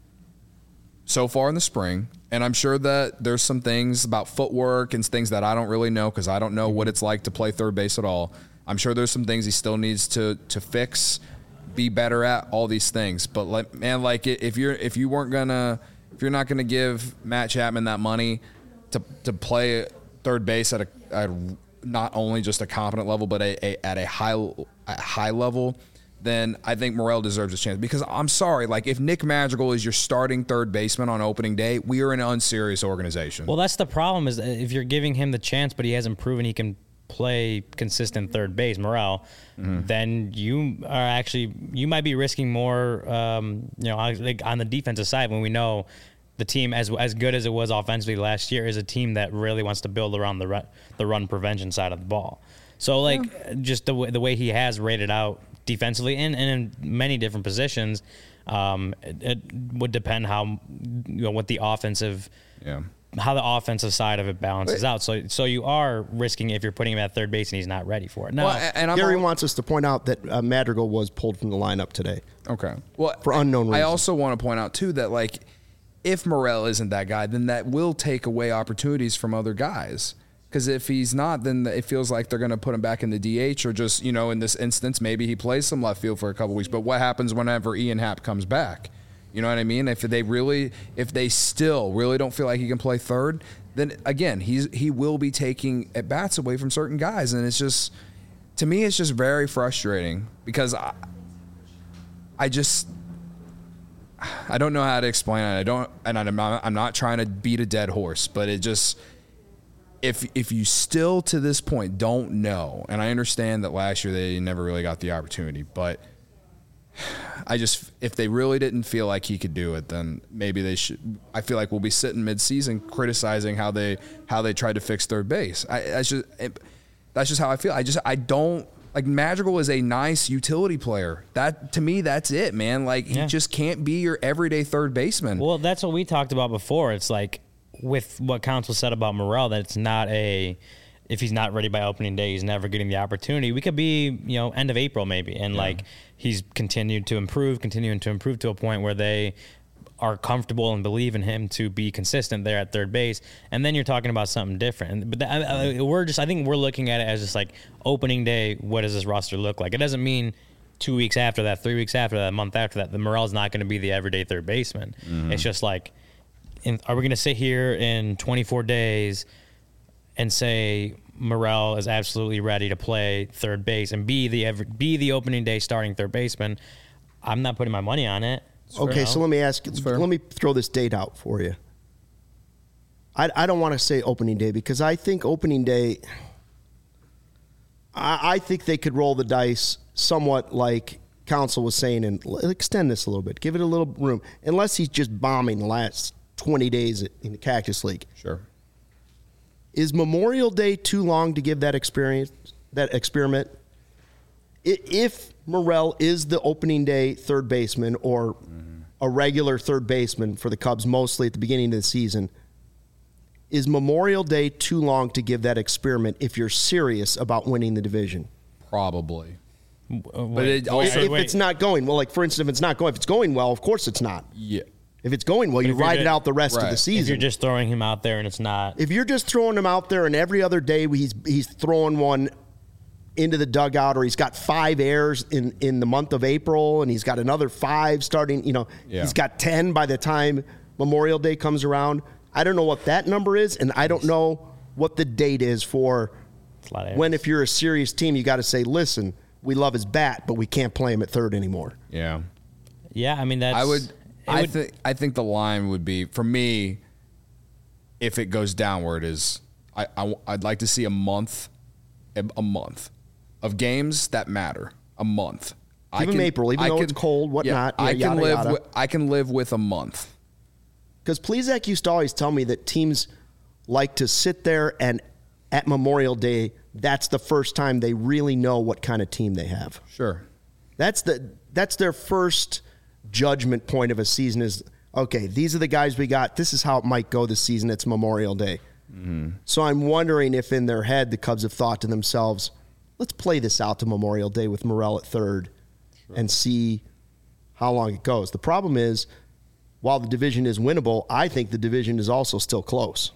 Speaker 3: so far in the spring. And I'm sure that there's some things about footwork and things that I don't really know because I don't know what it's like to play third base at all. I'm sure there's some things he still needs to to fix, be better at, all these things. But like, man, like if you're if you weren't gonna if you're not gonna give Matt Chapman that money to to play third base at a, at not only just a competent level but a, a, at a high a high level, then I think Morel deserves a chance. Because I'm sorry, like if Nick Madrigal is your starting third baseman on opening day, we are an unserious organization.
Speaker 4: Well, that's the problem is that if you're giving him the chance, but he hasn't proven he can play consistent third base, Morel, mm-hmm. then you are actually you might be risking more. Um, you know, like on the defensive side when we know the team as as good as it was offensively last year is a team that really wants to build around the run, the run prevention side of the ball. So like yeah. just the way, the way he has rated out defensively and, and in many different positions, um, it, it would depend how you know what the offensive,
Speaker 3: yeah,
Speaker 4: how the offensive side of it balances out. So so you are risking if you're putting him at third base and he's not ready for it. Now,
Speaker 1: well, and Gary all, wants us to point out that uh, Madrigal was pulled from the lineup today.
Speaker 3: Okay, well,
Speaker 1: for unknown reasons.
Speaker 3: I also want to point out too that like if Morel isn't that guy, then that will take away opportunities from other guys. Because if he's not, then it feels like they're going to put him back in the D H or just, you know, in this instance, maybe he plays some left field for a couple weeks. But what happens whenever Ian Happ comes back? You know what I mean? If they really, if they still really don't feel like he can play third, then again, he's he will be taking at bats away from certain guys. And it's just, to me, it's just very frustrating because I, I just, I don't know how to explain it. I don't, and I'm not, I'm not trying to beat a dead horse, but it just, If if you still to this point don't know, and I understand that last year they never really got the opportunity, but I just if they really didn't feel like he could do it, then maybe they should. I feel like we'll be sitting mid-season criticizing how they how they tried to fix third base. I that's just it, that's just how I feel. I just I don't like Madrigal is a nice utility player. That to me that's it, man. Like yeah. he just can't be your everyday third baseman.
Speaker 4: Well, that's what we talked about before. It's like. With what Counsell said about Morel, that it's not a, if he's not ready by opening day, he's never getting the opportunity. We could be, you know, end of April maybe, and yeah. like he's continued to improve, continuing to improve to a point where they are comfortable and believe in him to be consistent there at third base, and then you're talking about something different. But that, I, we're just, I think we're looking at it as just like opening day. What does this roster look like? It doesn't mean two weeks after that, three weeks after that, a month after that, the Morel's not going to be the everyday third baseman. Mm-hmm. It's just like. In, are we going to sit here in twenty-four days and say Morel is absolutely ready to play third base and be the every, be the opening day starting third baseman? I'm not putting my money on it.
Speaker 1: It's okay, so let me ask. Let me throw this date out for you. I, I don't want to say opening day because I think opening day. I, I think they could roll the dice somewhat like Counsell was saying and extend this a little bit, give it a little room, unless he's just bombing the last twenty days in the Cactus League.
Speaker 3: Sure.
Speaker 1: Is Memorial Day too long to give that experience, that experiment? If Morel is the opening day third baseman or mm-hmm. a regular third baseman for the Cubs, mostly at the beginning of the season, is Memorial Day too long to give that experiment if you're serious about winning the division?
Speaker 3: Probably.
Speaker 4: Uh, but it also,
Speaker 1: if, if it's not going well, like for instance, if it's not going, if it's going well, of course it's not.
Speaker 3: Yeah.
Speaker 1: If it's going well, you ride just, it out the rest right. of the season.
Speaker 4: If you're just throwing him out there and it's not.
Speaker 1: If you're just throwing him out there and every other day he's he's throwing one into the dugout or he's got five errors in, in the month of April and he's got another five starting, you know, yeah. he's got ten by the time Memorial Day comes around. I don't know what that number is, and I don't know what the date is for when if you're a serious team, you got to say, listen, we love his bat, but we can't play him at third anymore.
Speaker 3: Yeah.
Speaker 4: Yeah, I mean, that's...
Speaker 3: I would... I think I think the line would be for me. If it goes downward, is I, I I'd like to see a month, a month, of games that matter. A month.
Speaker 1: Give I him can, April, even I though can, it's cold, whatnot.
Speaker 3: Yeah, I can
Speaker 1: yada,
Speaker 3: live.
Speaker 1: Yada.
Speaker 3: With, I can live with a month.
Speaker 1: Because Plesac used to always tell me that teams like to sit there and at Memorial Day, that's the first time they really know what kind of team they have.
Speaker 3: Sure.
Speaker 1: That's the that's their first judgment point of a season is, okay, these are the guys we got. This is how it might go this season. It's Memorial Day. Mm-hmm. So I'm wondering if in their head the Cubs have thought to themselves, let's play this out to Memorial Day with Morel at third sure. and see how long it goes. The problem is, while the division is winnable, I think the division is also still close.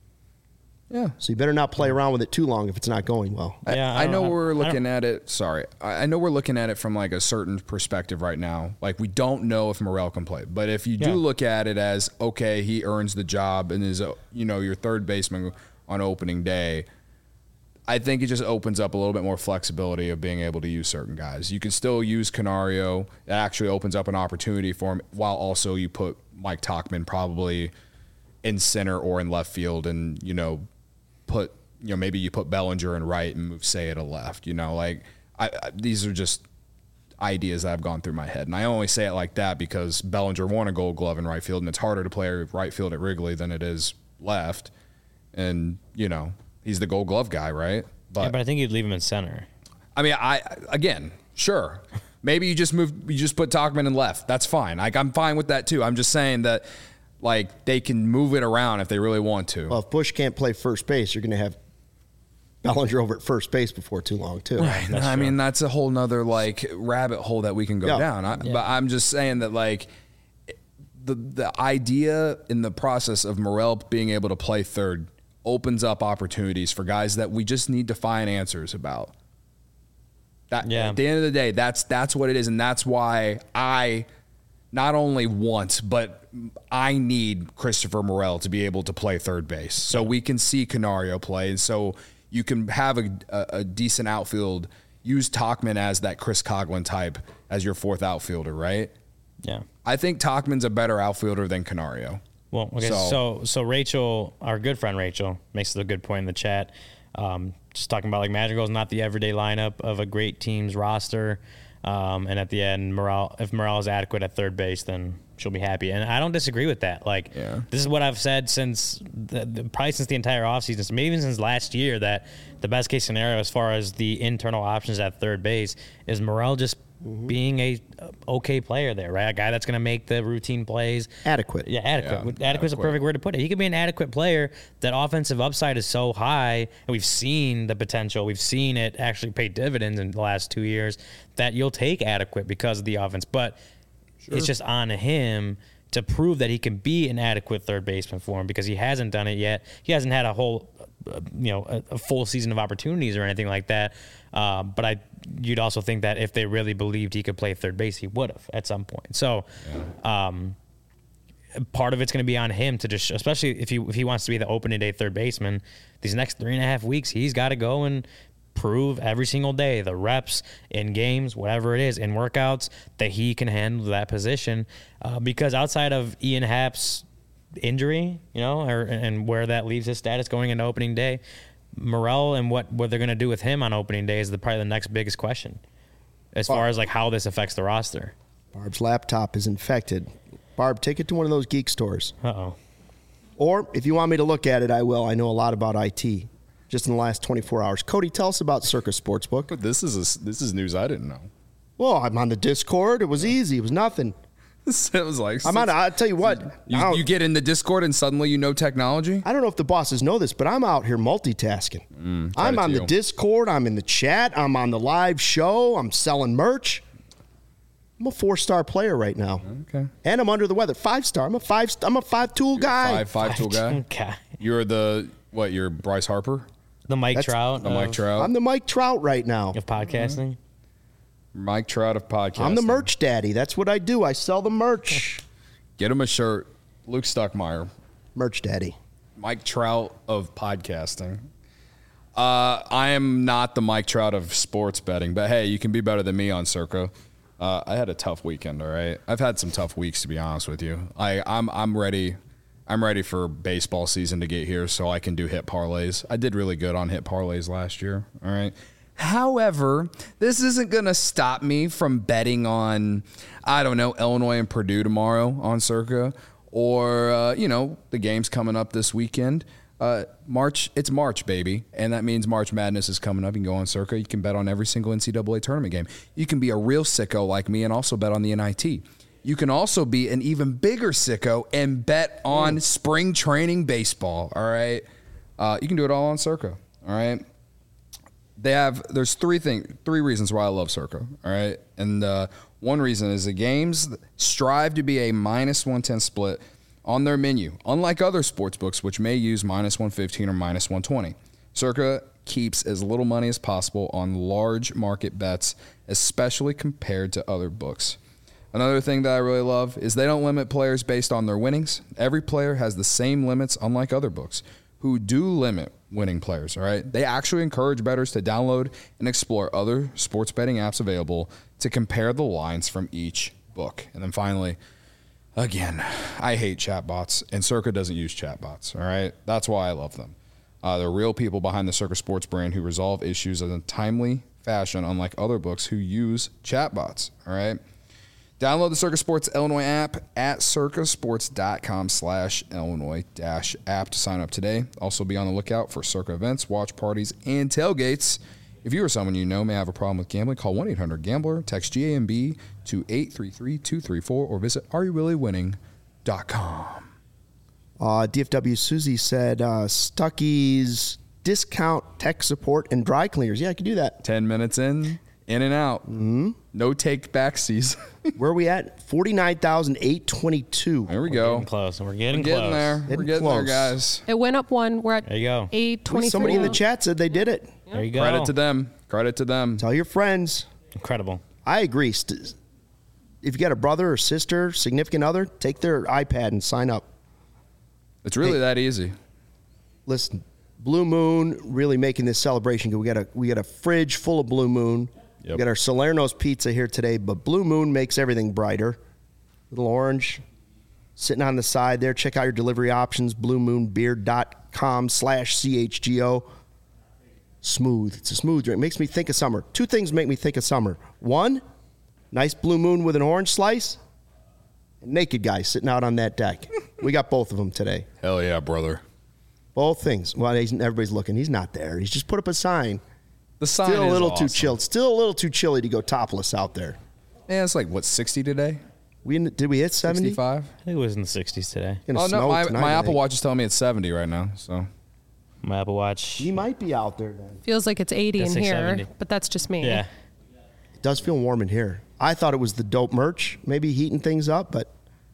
Speaker 3: Yeah.
Speaker 1: So you better not play around with it too long if it's not going well.
Speaker 3: I,
Speaker 4: Yeah, I
Speaker 3: I know
Speaker 4: don't-
Speaker 3: we're
Speaker 4: I
Speaker 3: looking at it. Sorry, I, I know we're looking at it from like a certain perspective right now. Like we don't know if Morel can play, but if you
Speaker 4: Yeah.
Speaker 3: do look at it as okay, he earns the job and is a, you know your third baseman on opening day. I think it just opens up a little bit more flexibility of being able to use certain guys. You can still use Canario. It actually opens up an opportunity for him, while also you put Mike Tauchman probably in center or in left field, and you know put. You know, maybe you put Bellinger in right and move Seiya to left. You know, like I, I, these are just ideas that have gone through my head, and I only say it like that because Bellinger won a Gold Glove in right field, and it's harder to play right field at Wrigley than it is left. And you know, he's the Gold Glove guy, right? But,
Speaker 4: Yeah, but I think you'd leave him in center.
Speaker 3: I mean, I again, sure, maybe you just move, you just put Tauchman in left. That's fine. Like I'm fine with that too. I'm just saying that like they can move it around if they really want to.
Speaker 1: Well, if Bush can't play first base, you're going to have Bellinger over at first base before too long, too.
Speaker 3: Right. I mean, that's a whole nother like rabbit hole that we can go
Speaker 1: Yeah.
Speaker 3: down. I,
Speaker 4: Yeah.
Speaker 3: But I'm just saying that like the the idea in the process of Morel being able to play third opens up opportunities for guys that we just need to find answers about. That
Speaker 4: Yeah.
Speaker 3: at the end of the day, that's that's what it is, and that's why I not only want, but I need Christopher Morel to be able to play third base, so we can see Canario play, and so you can have a, a, a decent outfield. Use Tauchman as that Chris Coughlin type as your fourth outfielder, right?
Speaker 4: Yeah.
Speaker 3: I think Tauchman's a better outfielder than Canario.
Speaker 4: Well, okay.
Speaker 3: So-
Speaker 4: So, so, Rachel, our good friend Rachel, makes a good point in the chat. Um, just talking about like Madrigal's not the everyday lineup of a great team's roster. Um, and at the end, Morel, if Morel is adequate at third base, then she'll be happy. And I don't disagree with that. Like,
Speaker 3: Yeah.
Speaker 4: this is what I've said since the, the, probably since the entire offseason, maybe even since last year, that the best case scenario as far as the internal options at third base is Morel just being a uh, okay player there, right? A guy that's going to make the routine plays.
Speaker 1: Adequate.
Speaker 4: Yeah, adequate.
Speaker 3: Yeah,
Speaker 4: Adequate is a
Speaker 3: adequate.
Speaker 4: perfect word to put it. He could be an adequate player. That offensive upside is so high, and we've seen the potential. We've seen it actually pay dividends in the last two years, that you'll take adequate because of the offense. But it's just on him to prove that he can be an adequate third baseman for him, because he hasn't done it yet. He hasn't had a whole, uh, you know, a, a full season of opportunities or anything like that. Uh, but I, you'd also think that if they really believed he could play third base, he would have at some point. So, um, part of it's going to be on him to just, especially if he if he wants to be the opening day third baseman, these next three and a half weeks, he's got to go and prove every single day, the reps in games, whatever it is, in workouts, that he can handle that position. Uh, because outside of Ian Happ's injury, you know, or, and where that leaves his status going into opening day, Morel and what, what they're going to do with him on opening day is the, probably the next biggest question as far as like how this affects the roster.
Speaker 1: Barb's laptop is infected. Barb, take it to one of those geek stores.
Speaker 4: Uh-oh.
Speaker 1: Or if you want me to look at it, I will. I know a lot about I T just in the last twenty-four hours. Cody, tell us about Circus Sportsbook.
Speaker 3: But this is a, this is news I didn't know.
Speaker 1: Well, I'm on the Discord. It was easy. It was nothing.
Speaker 3: It was like
Speaker 1: I'm on. I'll tell you what. I
Speaker 3: You,
Speaker 1: don't-
Speaker 3: you get in the Discord and suddenly you know technology.
Speaker 1: I don't know if the bosses know this, but I'm out here multitasking. I'm
Speaker 3: credit
Speaker 1: on
Speaker 3: to
Speaker 1: the
Speaker 3: you.
Speaker 1: Discord. I'm in the chat. I'm on the live show. I'm selling merch. I'm a four-star player right now.
Speaker 3: Okay.
Speaker 1: And I'm under the weather. Five-star. I'm a five. I'm a five-tool guy.
Speaker 3: Five five tool guy.
Speaker 4: Okay.
Speaker 3: You're the what? You're Bryce Harper.
Speaker 4: The Mike
Speaker 1: That's-
Speaker 4: Trout
Speaker 3: The Mike
Speaker 4: of,
Speaker 3: Trout.
Speaker 1: I'm the Mike Trout right now.
Speaker 4: of podcasting.
Speaker 3: Mike Trout of podcasting.
Speaker 1: I'm the merch daddy. That's what I do. I sell the merch.
Speaker 3: Get him a shirt. Luke Stuckmeyer.
Speaker 1: merch daddy.
Speaker 3: Mike Trout of podcasting. Uh, I am not the Mike Trout of sports betting, but hey, you can be better than me on Circa. Uh, I had a tough weekend. All right, I've had some tough weeks to be honest with you. I I'm I'm ready. I'm ready for baseball season to get here so I can do hit parlays. I did really good on hit parlays last year. All right. However, this isn't going to stop me from betting on, I don't know, Illinois and Purdue tomorrow on Circa, or, uh, you know, the games coming up this weekend. Uh, March, it's March, baby. And that means March Madness is coming up. You can go on Circa. You can bet on every single N C double A tournament game. You can be a real sicko like me and also bet on the N I T. You can also be an even bigger sicko and bet on spring training baseball, all right? Uh, you can do it all on Circa, all right? They have, there's three things, three reasons why I love Circa, all right? And uh, One reason is the games strive to be a minus one ten split on their menu, unlike other sportsbooks which may use minus one fifteen or minus one twenty. Circa keeps as little money as possible on large market bets, especially compared to other books. Another thing that I really love is they don't limit players based on their winnings. Every player has the same limits, unlike other books who do limit winning players, all right? They actually encourage bettors to download and explore other sports betting apps available to compare the lines from each book. And then finally, again, I hate chatbots, and Circa doesn't use chatbots, all right? That's why I love them. Uh, they're real people behind the Circa Sports brand who resolve issues in a timely fashion, unlike other books who use chatbots, all right? Download the Circa Sports Illinois app at circasports.com slash Illinois dash app to sign up today. Also be on the lookout for Circa events, watch parties, and tailgates. If you or someone you know may have a problem with gambling, call one eight hundred gambler, text G A M B to eight three three two three four, or visit are you really winning dot com.
Speaker 1: Uh, D F W Susie said uh, Stuckey's discount tech support and dry cleaners. Yeah, I could do that.
Speaker 3: ten minutes in, in and out. Mm-hmm. No take backsies.
Speaker 1: Where are we at? forty-nine thousand eight hundred twenty-two.
Speaker 3: There we
Speaker 4: We're
Speaker 3: go.
Speaker 4: getting close. We're getting,
Speaker 3: We're getting
Speaker 4: close.
Speaker 3: there.
Speaker 1: Getting
Speaker 3: We're getting
Speaker 1: close.
Speaker 3: there, guys.
Speaker 2: It went up one. We're at
Speaker 4: There you go.
Speaker 2: eight twenty-three.
Speaker 1: Somebody in the chat said they did it.
Speaker 4: There you go.
Speaker 3: Credit to them. Credit to them.
Speaker 1: Tell your friends.
Speaker 4: Incredible.
Speaker 1: I agree. St- If you got a brother or sister, significant other, take their iPad and sign up.
Speaker 3: It's really
Speaker 1: Hey.
Speaker 3: that easy.
Speaker 1: Listen, Blue Moon really making this celebration. We got a we got a fridge full of Blue Moon.
Speaker 3: Yep.
Speaker 1: We got our Salerno's pizza here today, but Blue Moon makes everything brighter. Little orange sitting on the side there. Check out your delivery options, blue moon beer dot com slash C H G O. Smooth. It's a smooth drink. Makes me think of summer. Two things make me think of summer. One, nice Blue Moon with an orange slice. And naked guy sitting out on that deck. We got both of them today.
Speaker 3: Hell yeah, brother.
Speaker 1: Both things. Well, he's, everybody's looking. He's not there. He's just put up a sign.
Speaker 3: The sign
Speaker 1: Still a
Speaker 3: is
Speaker 1: little
Speaker 3: awesome.
Speaker 1: too chilled. Still a little too chilly to go topless out there.
Speaker 3: Yeah, it's like, what, sixty today?
Speaker 1: We did we hit seventy?
Speaker 3: sixty-five?
Speaker 4: I think it was in the sixties today.
Speaker 1: Gonna
Speaker 3: Oh, no,
Speaker 1: snow
Speaker 3: my,
Speaker 1: tonight,
Speaker 3: my
Speaker 1: I
Speaker 3: Apple
Speaker 1: think.
Speaker 3: Watch is telling me it's seventy right now, so.
Speaker 4: My Apple Watch.
Speaker 1: He might be out there then.
Speaker 2: Feels like it's eighty in
Speaker 4: That's like
Speaker 2: here,
Speaker 4: seventy.
Speaker 2: but that's just me.
Speaker 4: Yeah.
Speaker 1: It does feel warm in here. I thought it was the dope merch, maybe heating things up, but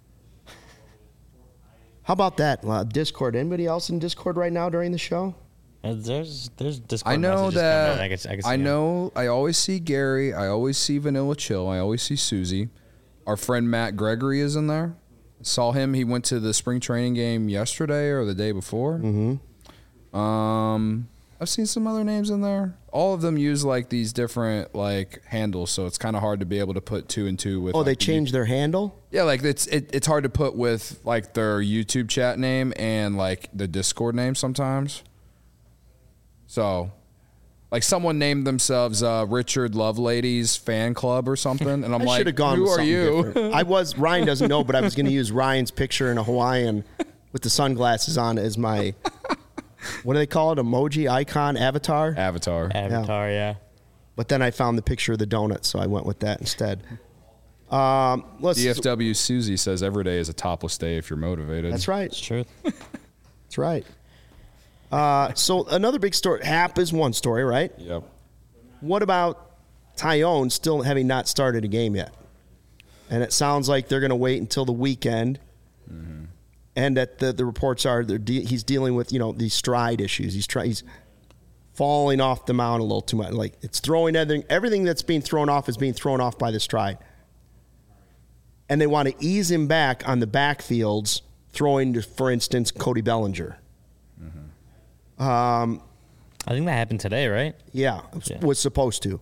Speaker 1: how about that? Uh, Discord. Anybody else in Discord right now during the show?
Speaker 4: Uh, There's there's Discord
Speaker 3: I know
Speaker 4: messages coming
Speaker 3: that.
Speaker 4: in. I, can, I, can see
Speaker 3: I
Speaker 4: them.
Speaker 3: know. I always see Gary. I always see Vanilla Chill. I always see Susie. Our friend Matt Gregory is in there. Saw him. He went to the spring training game yesterday or the day before. Mm-hmm. Um, I've seen some other names in there. All of them use like these different like handles, so it's kind of hard to be able to put two and two with.
Speaker 1: Oh,
Speaker 3: like,
Speaker 1: they
Speaker 3: the-
Speaker 1: changed their handle?
Speaker 3: Yeah, like it's it, it's hard to put with like their YouTube chat name and like the Discord name sometimes. So, like someone named themselves uh, Richard Loveladies Fan Club or something, and I'm
Speaker 1: I
Speaker 3: like,
Speaker 1: should have gone
Speaker 3: who
Speaker 1: with
Speaker 3: are
Speaker 1: something
Speaker 3: you?
Speaker 1: different. I was, Ryan doesn't know, but I was going to use Ryan's picture in a Hawaiian with the sunglasses on as my, what do they call it? Emoji, icon, avatar?
Speaker 3: Avatar.
Speaker 4: Avatar, yeah.
Speaker 1: But then I found the picture of the donut, so I went with that instead. Um, let's.
Speaker 3: D F W Susie says every day is a topless day if you're motivated.
Speaker 1: That's right.
Speaker 4: It's truth.
Speaker 1: That's right. Uh, so another big story. Hap is one story, right?
Speaker 3: Yep.
Speaker 1: What about Tyone still having not started a game yet? And it sounds like they're going to wait until the weekend. Mm-hmm. And that the, the reports are they're de- he's dealing with, you know, these stride issues. He's try- he's falling off the mound a little too much. Like it's throwing everything, everything that's being thrown off is being thrown off by the stride. And they want to ease him back on the backfields, throwing to, for instance, Cody Bellinger.
Speaker 4: I think that happened today, right?
Speaker 1: Yeah,
Speaker 4: Yeah.
Speaker 1: was supposed to.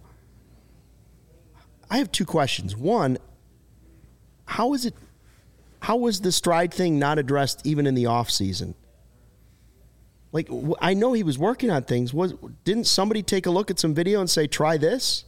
Speaker 1: I have two questions. One, how is it? How was the stride thing not addressed even in the off season? Like, w- I know he was working on things. Was didn't somebody take a look at some video and say, "Try this"?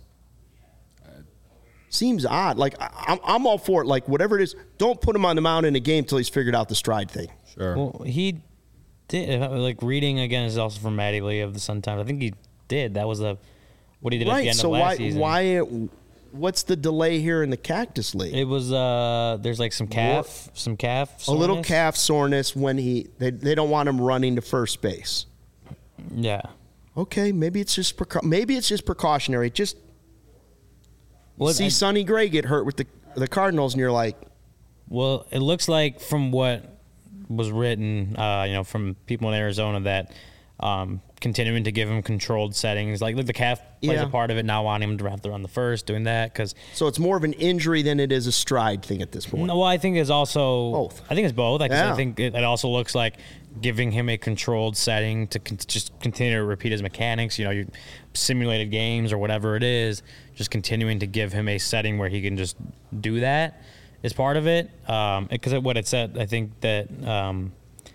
Speaker 1: Seems odd. Like I, I'm, I'm all for it. Like whatever it is, don't put him on the mound in a game till he's figured out the stride thing.
Speaker 3: Sure.
Speaker 4: Well, he did. Like reading again is also from Matty Lee of the Sun Times. I think he did. That was a what he did at the
Speaker 1: Right.
Speaker 4: end
Speaker 1: So
Speaker 4: of last
Speaker 1: why?
Speaker 4: season.
Speaker 1: Why? What's the delay here in the Cactus League?
Speaker 4: It was uh. There's like some calf, some calf.
Speaker 1: a little
Speaker 4: soreness.
Speaker 1: calf soreness when he they, they don't want him running to first base.
Speaker 4: Yeah.
Speaker 1: Okay, maybe it's just precau- maybe it's just precautionary. Just
Speaker 4: Well,
Speaker 1: see
Speaker 4: I-
Speaker 1: Sonny Gray get hurt with the the Cardinals, and you're like,
Speaker 4: Well, it looks like from what was written, uh, you know, from people in Arizona that um, continuing to give him controlled settings, like, like the calf plays
Speaker 1: Yeah.
Speaker 4: a part of it, not wanting him to have to run the first, doing that because.
Speaker 1: so it's more of an injury than it is a stride thing at this point.
Speaker 4: No, well, I think it's also
Speaker 1: Both.
Speaker 4: I think it's both. Like, 'cause
Speaker 1: Yeah.
Speaker 4: I think it, it also looks like giving him a controlled setting to con- just continue to repeat his mechanics. You know, your simulated games or whatever it is, just continuing to give him a setting where he can just do that is part of it. Because what it said, I think that um,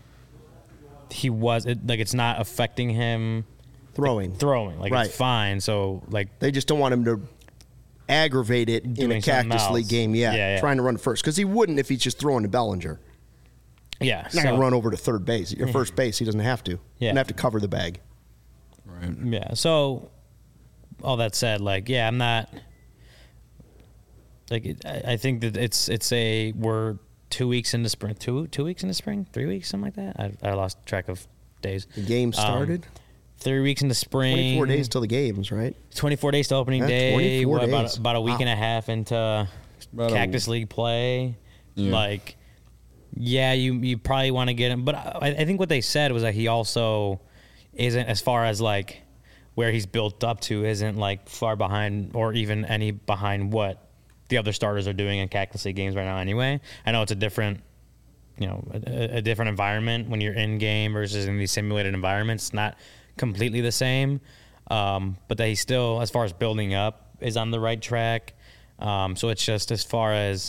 Speaker 4: he was it, like it's not affecting him
Speaker 1: Throwing.
Speaker 4: throwing. Like
Speaker 1: Right.
Speaker 4: it's fine. So like
Speaker 1: They just don't want him to aggravate it in
Speaker 4: Doing
Speaker 1: a
Speaker 4: something
Speaker 1: Cactus League
Speaker 4: else.
Speaker 1: game. Yeah,
Speaker 4: Yeah, yeah.
Speaker 1: trying to run first because he wouldn't if he's just throwing to Bellinger.
Speaker 4: yeah,
Speaker 1: He's not
Speaker 4: so-
Speaker 1: gonna run over to third base or first base. He doesn't have to.
Speaker 4: Yeah.
Speaker 1: Doesn't have to cover the bag.
Speaker 3: Right.
Speaker 4: Yeah. So, all that said, like, yeah, I'm not. Like, it, I I think that it's it's a we're two weeks into spring, two two weeks into spring, three weeks, something like that. I, I lost track of days.
Speaker 1: The game started.
Speaker 4: Um, three weeks into spring.
Speaker 1: twenty-four days till the games, right?
Speaker 4: twenty-four days to opening
Speaker 1: Yeah,
Speaker 4: day.
Speaker 1: twenty-four
Speaker 4: What, about
Speaker 1: days.
Speaker 4: about a week
Speaker 1: Wow.
Speaker 4: and a half into
Speaker 3: About a-
Speaker 4: Cactus League play.
Speaker 3: Yeah.
Speaker 4: Like, yeah, you you probably want to get him, but I, I think what they said was that he also isn't, as far as like where he's built up to, isn't like far behind or even any behind what the other starters are doing in Cactus League games right now. Anyway, I know it's a different, you know, a, a different environment when you're in game versus in these simulated environments. It's not completely the same, um, but that he still, as far as building up, is on the right track. Um, so it's just as far as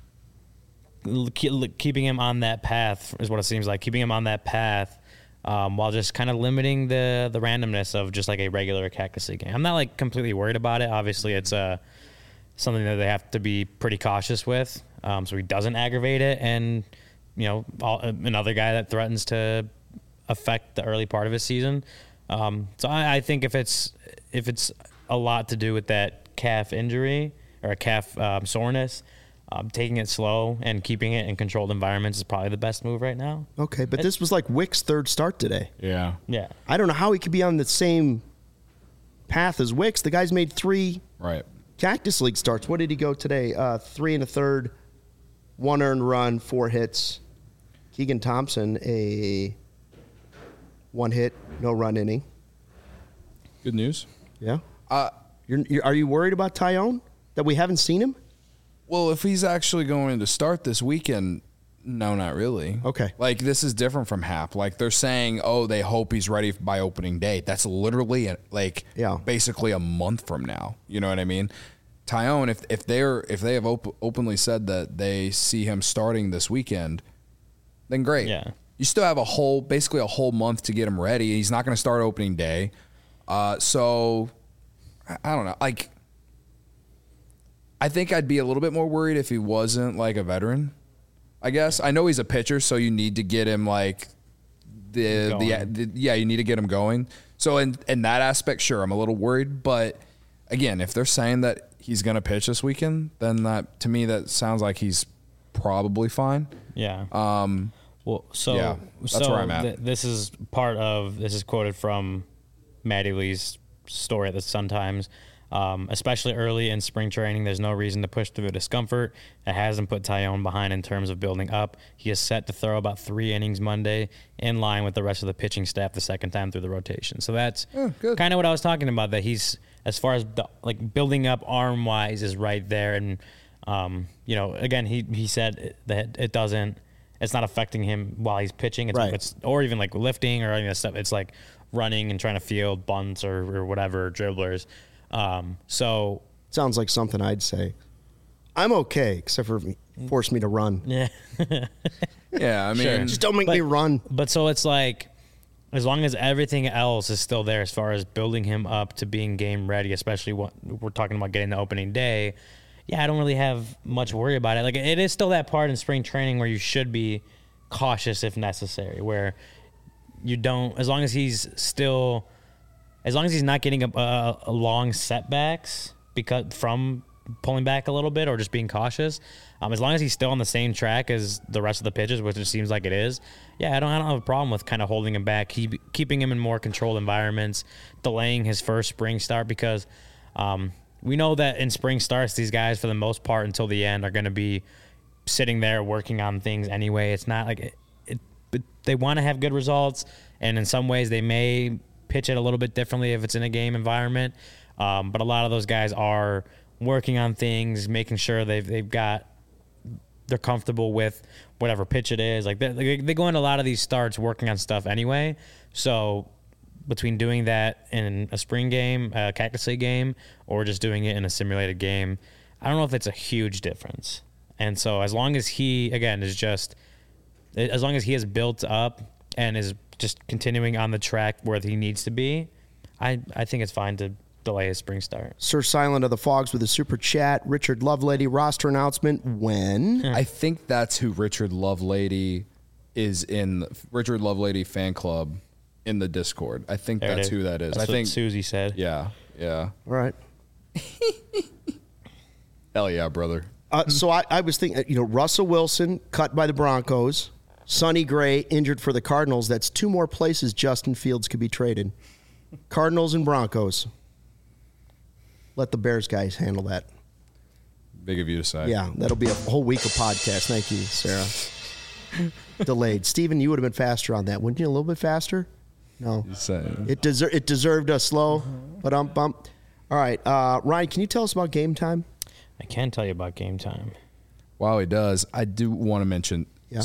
Speaker 4: l- keep- keeping him on that path is what it seems like. Keeping him on that path um, while just kind of limiting the the randomness of just like a regular Cactus League game. I'm not like completely worried about it. Obviously, it's uh, something that they have to be pretty cautious with, um, so he doesn't aggravate it. And you know, all, another guy that threatens to affect the early part of his season. Um, so I, I think if it's if it's a lot to do with that calf injury or a calf um, soreness, um, taking it slow and keeping it in controlled environments is probably the best move right now.
Speaker 1: Okay, but this was like Wick's third start today.
Speaker 3: Yeah.
Speaker 4: Yeah.
Speaker 1: I don't know how he could be on the same path as Wicks. The guy's made three
Speaker 3: Right.
Speaker 1: Cactus League starts. What did he go today? Uh, three and a third, one earned run, four hits. Keegan Thompson, a one hit, no run inning.
Speaker 3: Good news.
Speaker 1: Yeah.
Speaker 3: Uh,
Speaker 1: You're, you're, are you worried about Tyone that we haven't seen him?
Speaker 3: well, if he's actually going to start this weekend, no, not really.
Speaker 1: Okay.
Speaker 3: Like, this is different from Hap. Like, they're saying, oh, they hope he's ready by opening day. That's literally, a, like,
Speaker 1: Yeah.
Speaker 3: basically a month from now. You know what I mean? Tyone, if if they're if they have op- openly said that they see him starting this weekend, then great.
Speaker 4: Yeah.
Speaker 3: You still have a whole, basically a whole month to get him ready. He's not going to start opening day. Uh, so, I, I don't know. Like, I think I'd be a little bit more worried if he wasn't like a veteran. I guess I know he's a pitcher, so you need to get him like the the,
Speaker 4: Going.
Speaker 3: the yeah, you need to get him going. So in in that aspect, sure, I'm a little worried. But again, if they're saying that he's going to pitch this weekend, then that to me that sounds like he's probably fine.
Speaker 4: Yeah.
Speaker 3: Um,
Speaker 4: Well, so
Speaker 3: Yeah, that's
Speaker 4: so
Speaker 3: where I'm at.
Speaker 4: th- this is part of this is quoted from Maddie Lee's story at the Sun Times. Um, especially early in spring training, there's no reason to push through the discomfort. It hasn't put Tyone behind in terms of building up. He is set to throw about three innings Monday, in line with the rest of the pitching staff the second time through the rotation. So that's
Speaker 3: Oh, good.
Speaker 4: kind of what I was talking about. That he's, as far as the, like building up arm wise, is right there. And um, you know, again, he he said that it doesn't. It's not affecting him while he's pitching. It's,
Speaker 1: Right.
Speaker 4: it's or even like lifting or any of that stuff. It's like running and trying to field bunts or, or whatever dribblers. Um, so
Speaker 1: Sounds like something I'd say. I'm okay, except for force me to run.
Speaker 4: yeah,
Speaker 3: yeah, I mean,
Speaker 4: Sure.
Speaker 1: Just don't make
Speaker 4: But-
Speaker 1: me run.
Speaker 4: but so it's like as long as everything else is still there as far as building him up to being game ready, especially what we're talking about getting the opening day. Yeah, I don't really have much worry about it. Like it is still that part in spring training where you should be cautious if necessary, where you don't, as long as he's still, as long as he's not getting a, a, a long setbacks because from pulling back a little bit or just being cautious, um, as long as he's still on the same track as the rest of the pitches, which it seems like it is, yeah, I don't, I don't have a problem with kind of holding him back, keep, keeping him in more controlled environments, delaying his first spring start because um, we know that in spring starts, these guys, for the most part, until the end, are going to be sitting there working on things anyway. It's not like it, it, it they want to have good results, and in some ways they may pitch it a little bit differently if it's in a game environment. Um, but a lot of those guys are working on things, making sure they've they've got they're comfortable with whatever pitch it is. Like they they go into a lot of these starts working on stuff anyway. So between doing that in a spring game, a Cactus League game, or just doing it in a simulated game, I don't know if it's a huge difference. And so as long as he, again, is just, as long as he is built up and is just continuing on the track where he needs to be, I, I think it's fine to delay his spring start.
Speaker 1: Sir Silent of the Fogs with a super chat. Richard Lovelady roster announcement when?
Speaker 3: I think that's who Richard Lovelady is in. Richard Lovelady fan club in the Discord. I think
Speaker 4: There it
Speaker 3: that's
Speaker 4: is.
Speaker 3: who that is.
Speaker 4: That's
Speaker 3: I
Speaker 4: what
Speaker 3: think.
Speaker 4: Susie said.
Speaker 3: Yeah, yeah.
Speaker 1: All right.
Speaker 3: Hell yeah, brother.
Speaker 1: Uh, so I, I was thinking, you know, Russell Wilson cut by the Broncos, Sonny Gray injured for the Cardinals. That's two more places Justin Fields could be traded. Cardinals and Broncos. Let the Bears guys handle that.
Speaker 3: Big of you to say.
Speaker 1: Yeah, that'll be a whole week of podcast. Thank you, Sarah. Delayed. Steven, you would have been faster on that, wouldn't you? A little bit faster? No.
Speaker 3: Saying.
Speaker 1: It deser- it deserved a slow, but um bump. All right, uh, Ryan, can you tell us about Game Time?
Speaker 4: I can tell you about Game Time.
Speaker 3: While he does, I do want to mention.
Speaker 1: Yeah.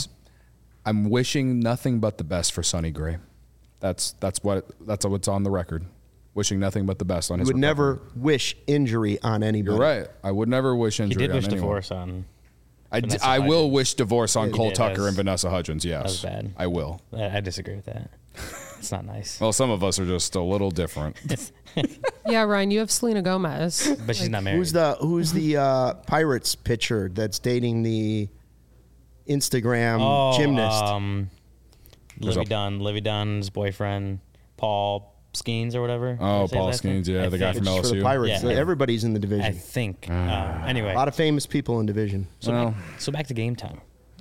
Speaker 3: I'm wishing nothing but the best for Sonny Gray. That's that's what that's what's on the record. Wishing nothing but the best on
Speaker 1: You
Speaker 3: his.
Speaker 1: would
Speaker 3: recovery.
Speaker 1: never wish injury on anybody.
Speaker 3: You're right. I would never wish
Speaker 4: He
Speaker 3: injury
Speaker 4: did
Speaker 3: on
Speaker 4: wish
Speaker 3: anyone.
Speaker 4: divorce on.
Speaker 3: I, d-
Speaker 4: Vanessa
Speaker 3: I will
Speaker 4: Hudgens.
Speaker 3: wish divorce on
Speaker 1: Yeah,
Speaker 3: Cole
Speaker 4: did.
Speaker 3: Tucker
Speaker 4: That's-
Speaker 3: and Vanessa Hudgens. Yes,
Speaker 4: that was bad.
Speaker 3: I will.
Speaker 4: I I disagree with that. It's not nice.
Speaker 3: Well, some of us are just a little different.
Speaker 2: Yeah, Ryan, you have Selena Gomez.
Speaker 4: But she's not married.
Speaker 1: Who's the Who's the uh, Pirates pitcher that's dating the Instagram
Speaker 4: oh,
Speaker 1: gymnast?
Speaker 4: Um,
Speaker 3: There's
Speaker 4: Livy
Speaker 3: a-
Speaker 4: Dunn, Livy Dunn's boyfriend, Paul Skeens or whatever.
Speaker 3: Oh,
Speaker 4: Did I say
Speaker 3: Paul
Speaker 4: his last name?
Speaker 3: Skeens, yeah,
Speaker 4: I
Speaker 3: the guy
Speaker 4: think-
Speaker 3: from
Speaker 1: Pitches for the
Speaker 3: L S U.
Speaker 1: Pirates.
Speaker 4: Yeah.
Speaker 1: Everybody's in the
Speaker 4: I
Speaker 1: division.
Speaker 4: think. Um, anyway,
Speaker 1: A lot of famous people in division.
Speaker 4: so,
Speaker 3: Well.
Speaker 4: back, so back to Game Time.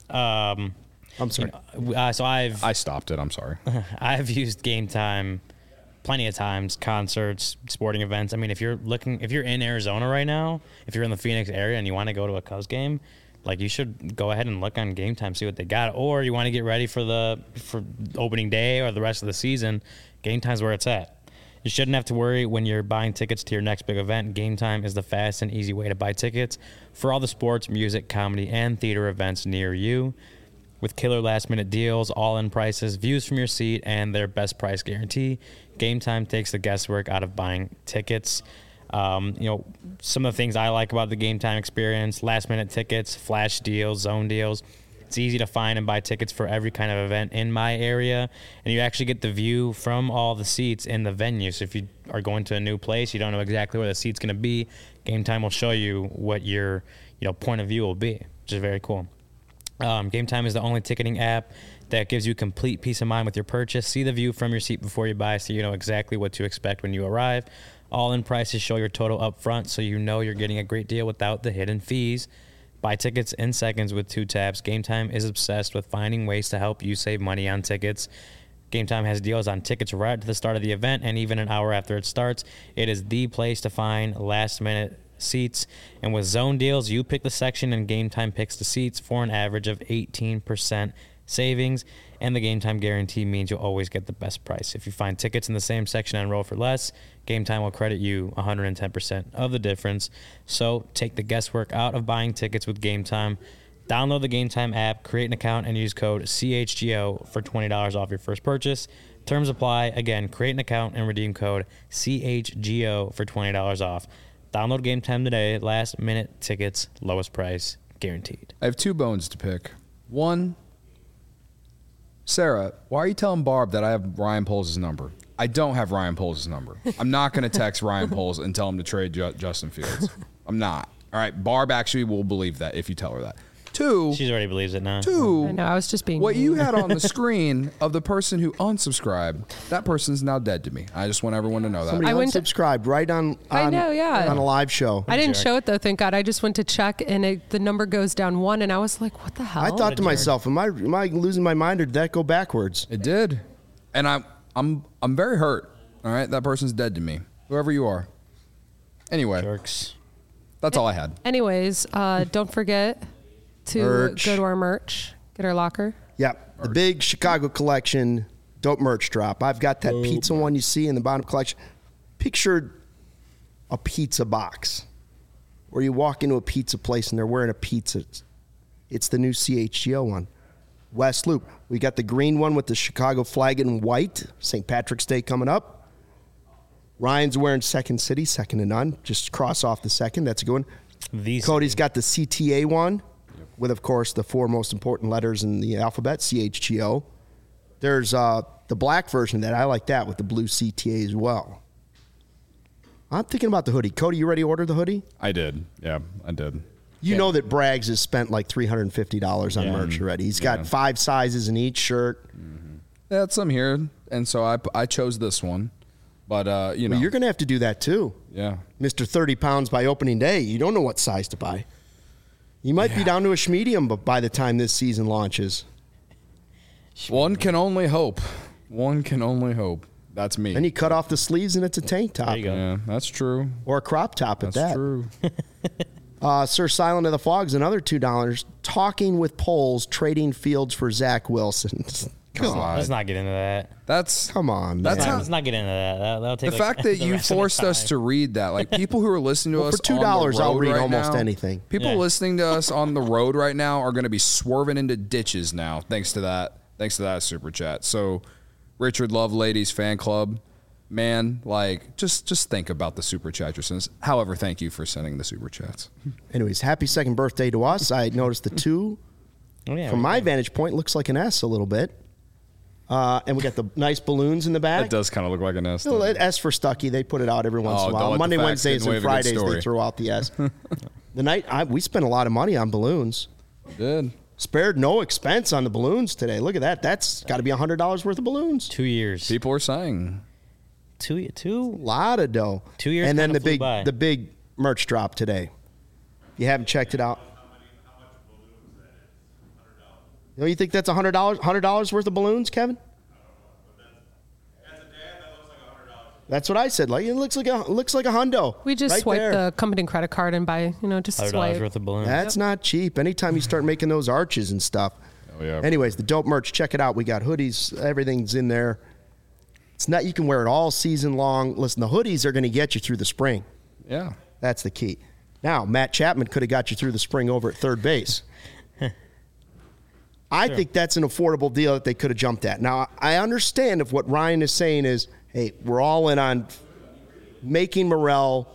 Speaker 4: Um,
Speaker 1: I'm sorry.
Speaker 4: uh, so I've
Speaker 3: I stopped it. I'm sorry.
Speaker 4: I've used Game Time plenty of times, concerts, sporting events. I mean, if you're looking, if you're in Arizona right now, if you're in the Phoenix area and you want to go to a Cubs game, like you should go ahead and look on Game Time, see what they got. Or you want to get ready for the for opening day or the rest of the season, Game Time's where it's at. You shouldn't have to worry when you're buying tickets to your next big event. Game Time is the fast and easy way to buy tickets for all the sports, music, comedy, and theater events near you. With killer last-minute deals, all-in prices, views from your seat, and their best price guarantee, Game Time takes the guesswork out of buying tickets. Um, you know, some of the things I like about the Game Time experience: last-minute tickets, flash deals, zone deals. It's easy to find and buy tickets for every kind of event in my area, and you actually get the view from all the seats in the venue. So if you are going to a new place, you don't know exactly where the seat's going to be, Game Time will show you what your you know point of view will be, which is very cool. Um, Game Time is the only ticketing app that gives you complete peace of mind with your purchase. See the view from your seat before you buy so you know exactly what to expect when you arrive. All-in prices show your total up front so you know you're getting a great deal without the hidden fees. Buy tickets in seconds with two taps. Game Time is obsessed with finding ways to help you save money on tickets. Game Time has deals on tickets right at the start of the event and even an hour after it starts. It is the place to find last-minute seats, and with zone deals, you pick the section and Game Time picks the seats for an average of eighteen percent savings, and the Game Time guarantee means you'll always get the best price. If you find tickets in the same section and enroll for less, Game Time will credit you one hundred ten percent of the difference. So take the guesswork out of buying tickets with Game Time. Download the Game Time app, create an account, and use code C H G O for twenty dollars off your first purchase. Terms apply. Again, create an account and redeem code C H G O for twenty dollars off. Download Game Time today. Last minute tickets, lowest price, guaranteed.
Speaker 3: I have two bones to pick. One, Sarah, why are you telling Barb that I have Ryan Poles' number? I don't have Ryan Poles' number. I'm not going to text Ryan Poles and tell him to trade Ju- Justin Fields. I'm not. All right, Barb actually will believe that if you tell her that. Two,
Speaker 4: She already believes it now.
Speaker 3: two.
Speaker 2: I know, I was just being
Speaker 3: What you
Speaker 2: mean.
Speaker 3: had on the screen of the person who unsubscribed, that person's now dead to me. I just want everyone to know that.
Speaker 1: Somebody
Speaker 2: I went to-
Speaker 1: unsubscribed right on,
Speaker 2: I
Speaker 1: on
Speaker 2: know, yeah.
Speaker 1: on a live show.
Speaker 2: I didn't
Speaker 4: jerk.
Speaker 2: show it though, thank God. I just went to check and it, the number goes down one, and I was like, "What the hell?"
Speaker 1: I thought to
Speaker 4: jerk.
Speaker 1: myself, am I am I losing my mind or did that go backwards?
Speaker 3: It did, and I'm I'm I'm very hurt. All right, that person's dead to me. Whoever you are. Anyway,
Speaker 4: Jerks.
Speaker 3: that's all I had.
Speaker 2: Anyways, uh, don't forget to
Speaker 1: Merch.
Speaker 2: go to our merch, get our locker.
Speaker 1: Yep, the big Chicago collection dope merch drop. I've got that pizza one you see in the bottom collection. Picture a pizza box where you walk into a pizza place and they're wearing a pizza. It's the new C H G O one. West Loop. We got the green one with the Chicago flag in white. Saint Patrick's Day coming up. Ryan's wearing Second City, second to none. Just cross off the second. That's a good one.
Speaker 4: The
Speaker 1: Cody's got the C T A one with, of course, the four most important letters in the alphabet, C H G O. There's uh, the black version of that. I like that with the blue C T A as well. I'm thinking about the hoodie. Cody, you ready to order the hoodie?
Speaker 3: I did. Yeah, I did.
Speaker 1: You
Speaker 3: Yeah.
Speaker 1: know that Braggs has spent like three hundred fifty dollars on
Speaker 4: Yeah.
Speaker 1: merch already. He's got
Speaker 3: Yeah.
Speaker 1: five sizes in each shirt.
Speaker 3: They had some here, and so I, I chose this one. But, uh, you know.
Speaker 1: Well, you're going to have to do that too.
Speaker 3: yeah.
Speaker 1: Mister thirty pounds by opening day. You don't know what size to buy. You might be down to a medium but by the time this season launches.
Speaker 3: One can only hope. One can only hope. That's me.
Speaker 1: Then you cut off the sleeves and it's a tank top.
Speaker 4: There you go.
Speaker 3: Yeah, that's true.
Speaker 1: Or a crop top at
Speaker 3: That's
Speaker 1: that.
Speaker 3: true.
Speaker 1: Uh, Sir Silent of the Fogs, another two dollars. Talking with polls, trading Fields for Zach Wilson. Come on.
Speaker 4: Let's not get into that.
Speaker 3: That's
Speaker 1: Come on, man.
Speaker 3: That's
Speaker 4: Let's not,
Speaker 3: how-
Speaker 4: let's not get into that. that that'll take
Speaker 3: the
Speaker 4: like
Speaker 3: fact that
Speaker 4: the
Speaker 3: you
Speaker 4: rest of the
Speaker 3: forced us
Speaker 4: time.
Speaker 3: to read that. Like people who are listening to
Speaker 1: Well,
Speaker 3: us
Speaker 1: for two
Speaker 3: on the
Speaker 1: dollars, I'll
Speaker 3: road
Speaker 1: read
Speaker 3: right
Speaker 1: almost
Speaker 3: now-
Speaker 1: anything.
Speaker 3: People
Speaker 4: Yeah.
Speaker 3: listening to us on the road right now are going to be swerving into ditches now, thanks to that. Thanks to that super chat. So, Richard Love Ladies Fan Club, man, like just just think about the super chat you're sending. However, thank you for sending the super chats.
Speaker 1: Anyways, happy second birthday to us. I noticed the two.
Speaker 4: Oh, yeah,
Speaker 1: From
Speaker 4: we-
Speaker 1: my vantage point, looks like an S a little bit. Uh, and we got the nice balloons in the back.
Speaker 3: It does kind of look like an S.
Speaker 1: Well,
Speaker 3: doesn't it?
Speaker 1: S for Stucky. They put it out every once
Speaker 3: Oh,
Speaker 1: in a
Speaker 3: don't
Speaker 1: while.
Speaker 3: let the
Speaker 1: Monday,
Speaker 3: facts
Speaker 1: Wednesdays,
Speaker 3: get in the way
Speaker 1: and
Speaker 3: of a good
Speaker 1: Fridays, they
Speaker 3: story.
Speaker 1: throw out the S. The night I, we spent a lot of money on balloons.
Speaker 3: Did.
Speaker 1: Spared no expense on the balloons today. Look at that. That's got to be one hundred dollars worth of balloons.
Speaker 4: two years.
Speaker 3: People are saying.
Speaker 4: Two, two.
Speaker 1: A lot of dough.
Speaker 4: Two years
Speaker 1: And then
Speaker 4: kinda
Speaker 1: the
Speaker 4: flew
Speaker 1: big
Speaker 4: by.
Speaker 1: the big merch drop today. If you haven't checked it out. Don't you think that's one hundred dollars one hundred dollars worth of balloons, Kevin? That's what I said. Like it looks like a it looks like a hundo.
Speaker 2: We just
Speaker 1: right
Speaker 2: swipe
Speaker 1: there.
Speaker 2: the company credit card and buy, you know, just
Speaker 4: Hundred dollars
Speaker 2: swipe.
Speaker 4: worth of balloons.
Speaker 1: That's not cheap. Anytime you start making those arches and stuff.
Speaker 3: Oh, yeah.
Speaker 1: Anyways, the dope merch, check it out. We got hoodies, everything's in there. It's not you can wear it all season long. Listen, the hoodies are going to get you through the spring.
Speaker 3: Yeah.
Speaker 1: That's the key. Now, Matt Chapman could have got you through the spring over at third base. I think that's an affordable deal that they could have jumped at. Now, I understand if what Ryan is saying is, hey, we're all in on making Morel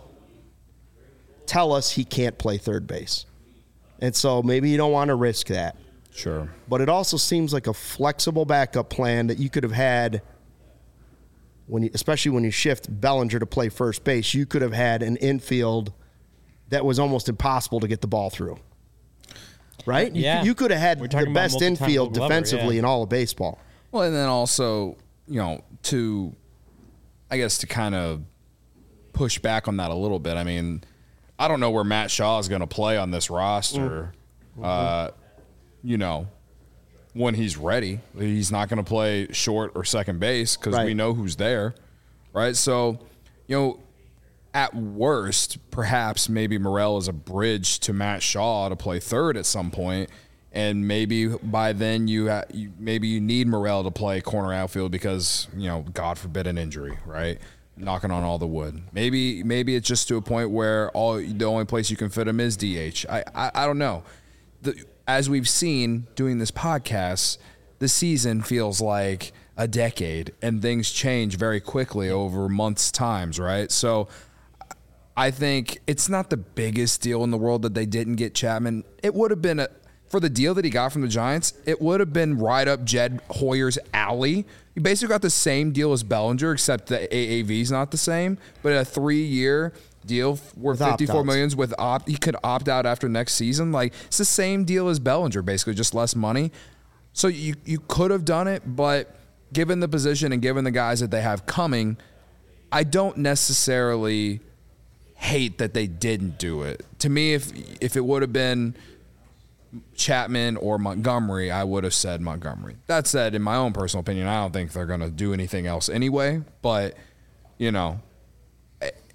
Speaker 1: tell us he can't play third base. And so maybe you don't want to risk that.
Speaker 3: Sure.
Speaker 1: But it also seems like a flexible backup plan that you could have had when you, especially when you shift Bellinger to play first base, you could have had an infield that was almost impossible to get the ball through. Right? You-
Speaker 4: Yeah.
Speaker 1: You, could have had
Speaker 4: We're
Speaker 1: the
Speaker 4: talking about
Speaker 1: best
Speaker 4: multi-time
Speaker 1: infield
Speaker 4: Gold Glover,
Speaker 1: defensively
Speaker 4: yeah.
Speaker 1: in all of baseball.
Speaker 3: Well, and then also, you know, to, I guess, to kind of push back on that a little bit. I mean, I don't know where Matt Shaw is going to play on this roster.
Speaker 1: Mm-hmm.
Speaker 3: Uh, you know, when he's ready, he's not going to play short or second base because
Speaker 1: Right.
Speaker 3: we know who's there, right? So, you know, at worst, perhaps maybe Morel is a bridge to Matt Shaw to play third at some point, and maybe by then you, ha- you maybe you need Morel to play corner outfield because, you know, God forbid an injury, right? Knocking on all the wood. Maybe maybe it's just to a point where all the only place you can fit him is D H. I I, I don't know. The, as we've seen doing this podcast, the season feels like a decade, and things change very quickly over months' times, right? So I think it's not the biggest deal in the world that they didn't get Chapman. It would have been a for the deal that he got from the Giants, it would have been right up Jed Hoyer's alley. You basically got the same deal as Bellinger, except the A A V is not the same. But a three-year deal worth
Speaker 1: With
Speaker 3: fifty-four
Speaker 1: opt-outs.
Speaker 3: millions with opt, he could opt out after next season. Like it's the same deal as Bellinger, basically just less money. So you you could have done it, but given the position and given the guys that they have coming, I don't necessarily hate that they didn't do it. To me, if if it would have been Chapman or Montgomery, I would have said Montgomery. That said, in my own personal opinion, I don't think they're going to do anything else anyway. But, you know, I,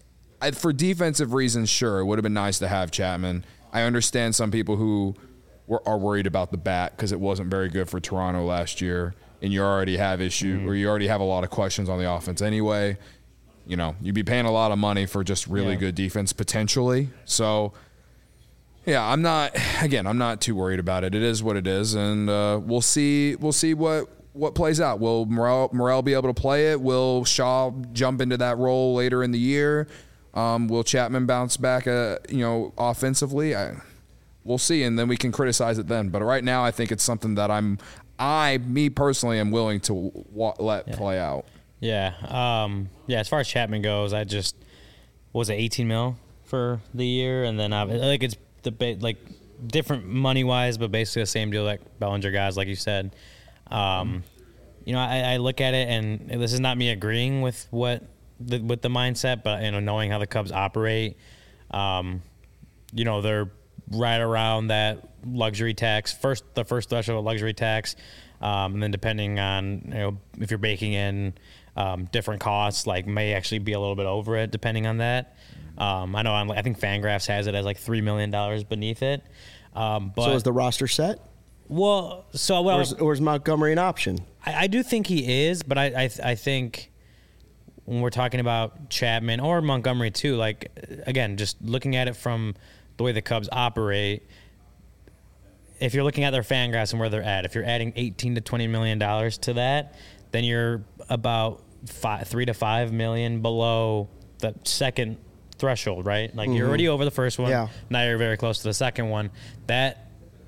Speaker 3: I, for defensive reasons, sure, it would have been nice to have Chapman. I understand some people who were, are worried about the bat because it wasn't very good for Toronto last year, and you already have issue mm-hmm. or you already have a lot of questions on the offense anyway. You know, you'd be paying a lot of money for just really yeah. good defense potentially. So, yeah, I'm not. Again, I'm not too worried about it. It is what it is, and uh, we'll see. We'll see what. what plays out. Will Morel, Morel be able to play it? Will Shaw jump into that role later in the year? Um, will Chapman bounce back, uh, you know, offensively? I, we'll see, and then we can criticize it then. But right now, I think it's something that I'm, I, me personally, am willing to wa- let
Speaker 4: yeah.
Speaker 3: play out.
Speaker 4: Yeah, um, yeah. As far as Chapman goes, I just what was it eighteen mil for the year, and then uh, like it's the like different money wise, but basically the same deal like Bellinger guys, like you said. Um, you know, I, I look at it, and this is not me agreeing with what the, with the mindset, but you know, knowing how the Cubs operate, um, you know, they're right around that luxury tax first, the first threshold of luxury tax, um, and then depending on you know if you're baking in um, different costs, like may actually be a little bit over it depending on that. Um, I know on, I think Fangraphs has it as like three million dollars beneath it. Um, but
Speaker 1: so is the roster set?
Speaker 4: Well, so well,
Speaker 1: or is, or is Montgomery an option?
Speaker 4: I, I do think he is, but I, I I think when we're talking about Chapman or Montgomery too, like again, just looking at it from the way the Cubs operate, if you're looking at their Fangraphs and where they're at, if you're adding eighteen to twenty million dollars to that, then you're about five, three to five million below the second threshold, right? Like mm-hmm. you're already over the first one.
Speaker 1: Yeah.
Speaker 4: Now you're very close to the second one. That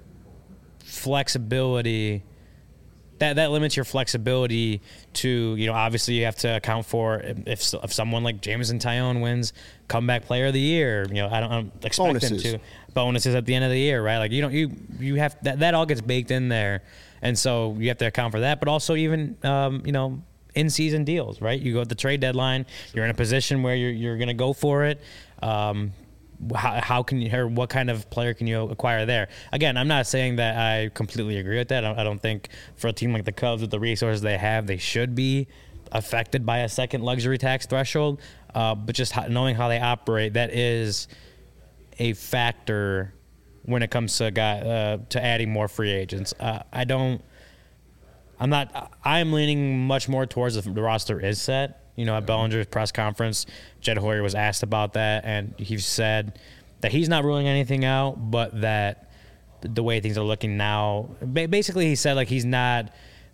Speaker 4: flexibility that that limits your flexibility to, you know, obviously you have to account for if if someone like Jameson Taillon wins comeback player of the year, you know, I don't, I don't expect
Speaker 1: bonuses.
Speaker 4: him to bonuses at the end of the year, right? Like you don't you you have that that all gets baked in there, and so you have to account for that, but also even um, you know, in season deals, right? You go at the trade deadline, you're in a position where you're you're going to go for it. Um, How, how can you, or what kind of player can you acquire there? Again, I'm not saying that I completely agree with that. I don't think for a team like the Cubs with the resources they have, they should be affected by a second luxury tax threshold. Uh, but just knowing how they operate, that is a factor when it comes to guy, uh, to adding more free agents. Uh, I don't. I'm not. I'm leaning much more towards the, the roster is set. You know, at Bellinger's press conference, Jed Hoyer was asked about that, and he said that he's not ruling anything out, but that the way things are looking now, basically he said like he's not,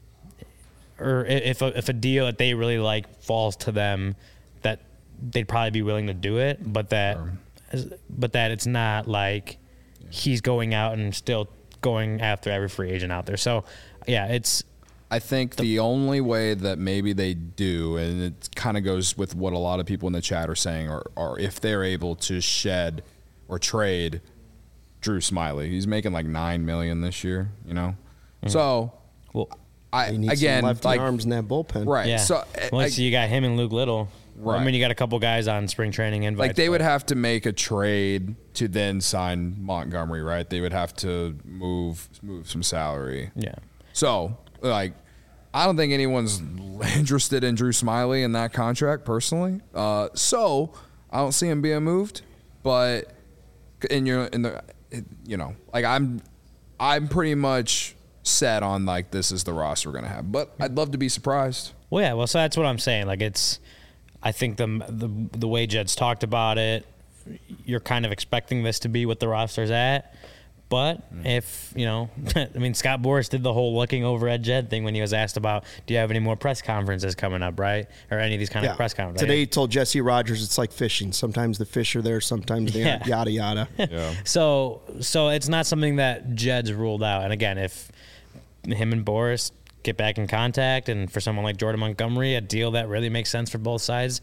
Speaker 4: or if a, if a deal that they really like falls to them, that they'd probably be willing to do it, but that, but that it's not like he's going out and still going after every free agent out there. So, yeah, it's.
Speaker 3: I think the, the only way that maybe they do, and it kind of goes with what a lot of people in the chat are saying, are, are if they're able to shed or trade Drew Smyly. He's making like nine million dollars this year, you know? Mm-hmm. So,
Speaker 1: well,
Speaker 3: I
Speaker 1: he needs
Speaker 3: again,
Speaker 1: some lefty
Speaker 3: like,
Speaker 1: arms in that bullpen.
Speaker 3: Right.
Speaker 4: Yeah.
Speaker 3: So,
Speaker 4: well,
Speaker 3: I,
Speaker 4: so you got him and Luke Little.
Speaker 3: Right.
Speaker 4: I mean, you got a couple guys on spring training invites.
Speaker 3: Like they would have to make a trade to then sign Montgomery, right? They would have to move move some salary.
Speaker 4: Yeah.
Speaker 3: So, like, I don't think anyone's interested in Drew Smyly in that contract personally. Uh, so I don't see him being moved. But in your in the you know, like I'm I'm pretty much set on like this is the roster we're gonna have. But I'd love to be surprised.
Speaker 4: Well, yeah. Well, so that's what I'm saying. Like it's, I think the the the way Jed's talked about it, you're kind of expecting this to be what the roster's at. But if, you know, I mean, Scott Boras did the whole looking over at Jed thing when he was asked about, do you have any more press conferences coming up, right? Or any of these kind
Speaker 1: yeah.
Speaker 4: of press conferences.
Speaker 1: Today he told Jesse Rogers it's like fishing. Sometimes the fish are there, sometimes they aren't,
Speaker 4: yeah.
Speaker 1: yada, yada.
Speaker 3: Yeah.
Speaker 4: so, so it's not something that Jed's ruled out. And again, if him and Boras get back in contact and for someone like Jordan Montgomery, a deal that really makes sense for both sides,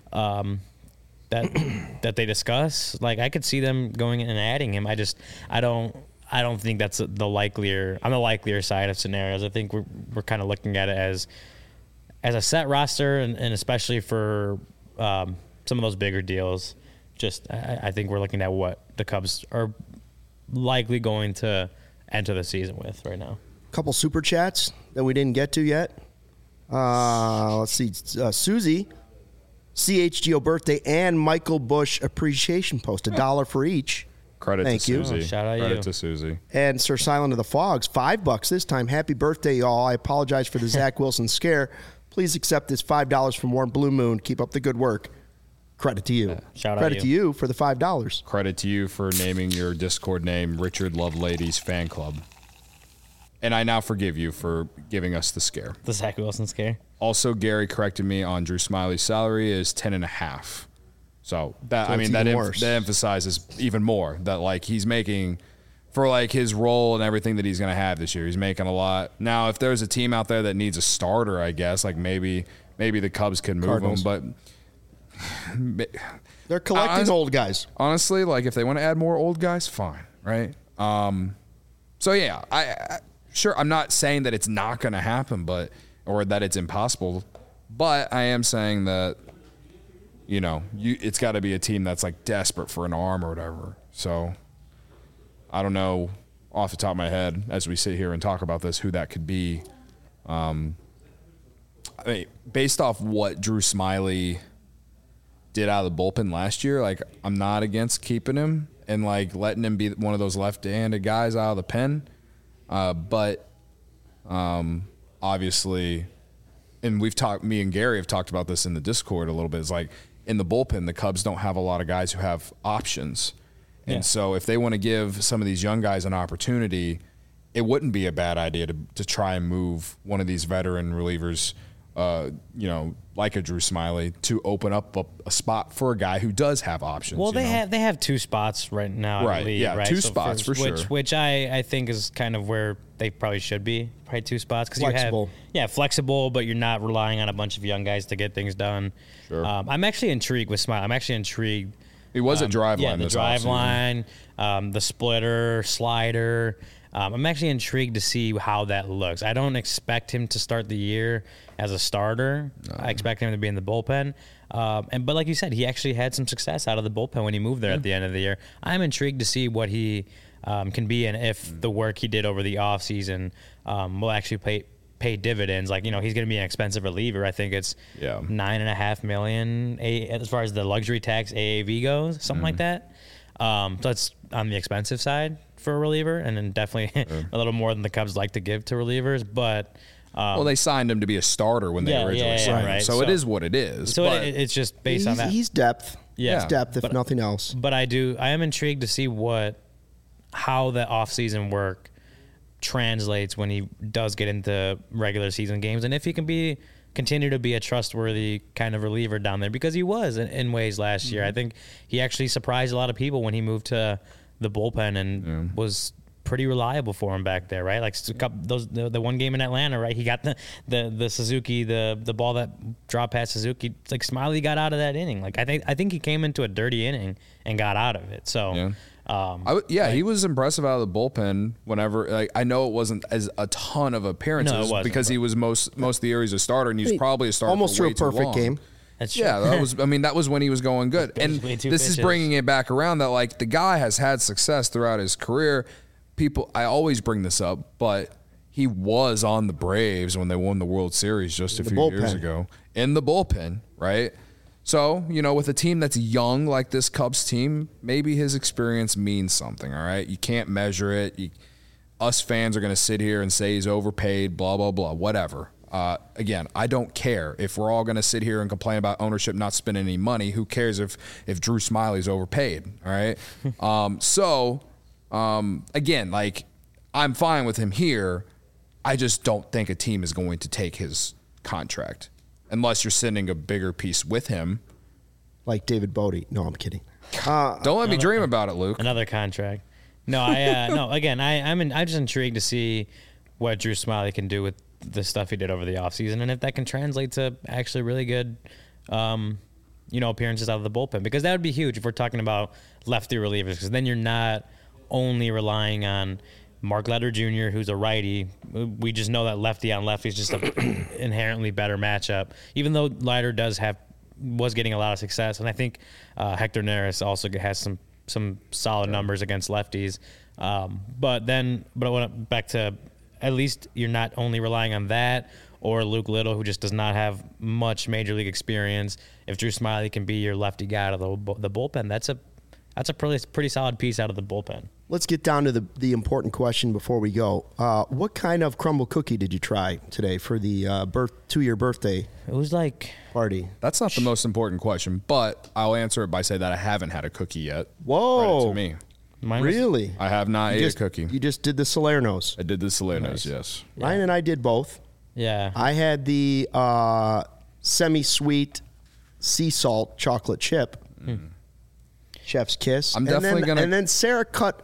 Speaker 4: um, that that they discuss, like I could see them going and adding him. I just I don't I don't think that's the likelier on the likelier side of scenarios. I think we're we're kind of looking at it as as a set roster, and, and especially for um, some of those bigger deals. Just I, I think we're looking at what the Cubs are likely going to enter the season with right now.
Speaker 1: A couple super chats that we didn't get to yet. Uh, let's see. Uh, Susie C H G O birthday and Michael Bush appreciation post, a dollar for each.
Speaker 3: Credit
Speaker 1: Thank
Speaker 3: to
Speaker 1: you.
Speaker 3: Susie.
Speaker 4: Oh, shout out
Speaker 3: Credit
Speaker 4: you.
Speaker 3: to Susie.
Speaker 1: And Sir Silent of the Fogs, five bucks this time. Happy birthday, y'all. I apologize for the Zach Wilson scare. Please accept this five dollars from Warren Blue Moon. Keep up the good work. Credit to you.
Speaker 4: Shout out
Speaker 1: Credit
Speaker 4: you.
Speaker 1: to you for the five dollars.
Speaker 3: Credit to you for naming your Discord name Richard Loveladies Fan Club. And I now forgive you for giving us the scare.
Speaker 4: The Zach Wilson scare.
Speaker 3: Also, Gary corrected me on Drew Smiley's salary is ten and a half. So that
Speaker 1: So
Speaker 3: I
Speaker 1: it's
Speaker 3: mean that,
Speaker 1: even
Speaker 3: em-
Speaker 1: worse.
Speaker 3: that emphasizes even more that like he's making for like his role and everything that he's going to have this year. He's making a lot. Now, if there's a team out there that needs a starter, I guess like maybe maybe the Cubs could move
Speaker 1: Cardinals.
Speaker 3: him, but
Speaker 1: They're collecting
Speaker 3: Honest-
Speaker 1: old guys.
Speaker 3: honestly, like if they want to add more old guys, fine, right? Um, so yeah, I, I sure I'm not saying that it's not going to happen, but or that it's impossible, but I am saying that you know you it's got to be a team that's like desperate for an arm or whatever. So I don't know off the top of my head as we sit here and talk about this who that could be. Um, I mean, based off what Drew Smiley did out of the bullpen last year, like I'm not against keeping him and like letting him be one of those left-handed guys out of the pen. Uh, but um, obviously, and we've talked, me and Gary have talked about this in the Discord a little bit. It's like in the bullpen, the Cubs don't have a lot of guys who have options. And
Speaker 4: Yeah.
Speaker 3: so if they want to give some of these young guys an opportunity, it wouldn't be a bad idea to, to try and move one of these veteran relievers, uh, you know, like a Drew Smiley, to open up a, a spot for a guy who does have options.
Speaker 4: Well,
Speaker 3: you
Speaker 4: they
Speaker 3: know?
Speaker 4: have they have two spots right now.
Speaker 3: Right,
Speaker 4: In the league,
Speaker 3: yeah,
Speaker 4: right?
Speaker 3: two spots for
Speaker 4: which,
Speaker 3: sure.
Speaker 4: Which I, I think is kind of where they probably should be. Probably two spots because you have
Speaker 1: Flexible.
Speaker 4: yeah flexible, but you're not relying on a bunch of young guys to get things done.
Speaker 3: Sure.
Speaker 4: Um, I'm actually intrigued with Smile. I'm actually intrigued.
Speaker 3: He was a
Speaker 4: um,
Speaker 3: drive
Speaker 4: yeah,
Speaker 3: line
Speaker 4: the
Speaker 3: this
Speaker 4: drive
Speaker 3: offseason.
Speaker 4: line, um, the splitter, slider. Um, I'm actually intrigued to see how that looks. I don't expect him to start the year as a starter. I expect him to be in the bullpen. Um, and but like you said, he actually had some success out of the bullpen when he moved there at the end of the year. I'm intrigued to see what he um, can be and if the work he did over the offseason um, will actually pay pay dividends. Like, you know, he's going to be an expensive reliever. I think it's
Speaker 3: Yeah.
Speaker 4: nine and a half million a, as far as the luxury tax A A V goes, something like that. Um, so it's on the expensive side for a reliever, and then definitely a little more than the Cubs like to give to relievers. But um,
Speaker 3: Well, they signed him to be a starter when they
Speaker 4: Yeah,
Speaker 3: originally
Speaker 4: yeah, yeah,
Speaker 3: signed him,
Speaker 4: right.
Speaker 3: so, it
Speaker 4: So-
Speaker 3: is what it is.
Speaker 4: so
Speaker 3: but
Speaker 4: it, it's just based
Speaker 1: He's,
Speaker 4: on that.
Speaker 1: he's depth.
Speaker 4: Yeah.
Speaker 1: He's depth, if
Speaker 4: But-
Speaker 1: nothing else.
Speaker 4: But I do. I am intrigued to see what how the offseason work translates when he does get into regular season games, and if he can be continue to be a trustworthy kind of reliever down there, because he was in, in ways last year. I think he actually surprised a lot of people when he moved to the bullpen and was pretty reliable for him back there, right? Like a couple, those the, the one game in Atlanta, right? He got the the the Suzuki, the the ball that dropped past Suzuki. Like Smiley got out of that inning. Like I think I think he came into a dirty inning and got out of it. So
Speaker 3: Yeah.
Speaker 4: um,
Speaker 3: I w- yeah, he was impressive out of the bullpen. Whenever, like, I know it wasn't as a ton of appearances
Speaker 4: No, it wasn't,
Speaker 3: because
Speaker 4: but-
Speaker 3: he was most most of the year he's a starter, and he was probably a starter
Speaker 1: Almost
Speaker 3: for
Speaker 1: threw
Speaker 3: way
Speaker 1: a perfect
Speaker 3: too long.
Speaker 1: game.
Speaker 4: that's
Speaker 3: Yeah,
Speaker 4: true.
Speaker 3: that was. I mean, that was when he was going good, and
Speaker 4: way two
Speaker 3: this is
Speaker 4: pitches.
Speaker 3: bringing it back around that like the guy has had success throughout his career. People, I always bring this up, but he was on the Braves when they won the World Series just a
Speaker 1: The
Speaker 3: few years
Speaker 1: bullpen.
Speaker 3: ago in the bullpen, right? So, you know, with a team that's young like this Cubs team, maybe his experience means something, all right? You can't measure it. You, us fans are going to sit here and say he's overpaid, blah, blah, blah, whatever. Uh, again, I don't care. If we're all going to sit here and complain about ownership not spending any money, who cares if, if Drew Smiley's overpaid, all right? um, so, um, again, like, I'm fine with him here. I just don't think a team is going to take his contract unless you're sending a bigger piece with him.
Speaker 1: Like David Bodie. No, I'm kidding. Uh,
Speaker 3: Don't let me dream about it, Luke.
Speaker 4: Another contract. No, I uh, no. Again, I I'm in, I'm just intrigued to see what Drew Smiley can do with the stuff he did over the offseason, and if that can translate to actually really good, um, you know, appearances out of the bullpen, because that would be huge if we're talking about lefty relievers, because then you're not only relying on Mark Letter Junior, who's a righty. We just know that lefty on lefty is just an inherently better matchup, even though Leiter does have was getting a lot of success, and I think uh, Hector Neris also has some some solid numbers against lefties. Um, but then, but I went back to at least you're not only relying on that or Luke Little, who just does not have much major league experience. If Drew Smyly can be your lefty guy out of the, the bullpen, that's a that's a pretty pretty solid piece out of the bullpen.
Speaker 1: Let's get down to the, the important question before we go. Uh, what kind of crumble cookie did you try today for the uh, birth two-year birthday
Speaker 4: It was like
Speaker 1: party?
Speaker 3: That's not the most important question, but I'll answer it by saying that I haven't had a cookie yet.
Speaker 1: Whoa.
Speaker 3: Credit to me.
Speaker 4: mine was,
Speaker 1: Really?
Speaker 3: I have not
Speaker 1: You
Speaker 3: ate
Speaker 1: just,
Speaker 3: a cookie.
Speaker 1: You just did the Salerno's.
Speaker 3: I did the Salerno's, yes.
Speaker 1: Ryan and I did both.
Speaker 4: Yeah.
Speaker 1: I had the uh, semi-sweet sea salt chocolate chip.
Speaker 3: Mm.
Speaker 1: Chef's kiss.
Speaker 3: I'm
Speaker 1: and
Speaker 3: definitely
Speaker 1: then,
Speaker 3: gonna-
Speaker 1: And then Sarah cut...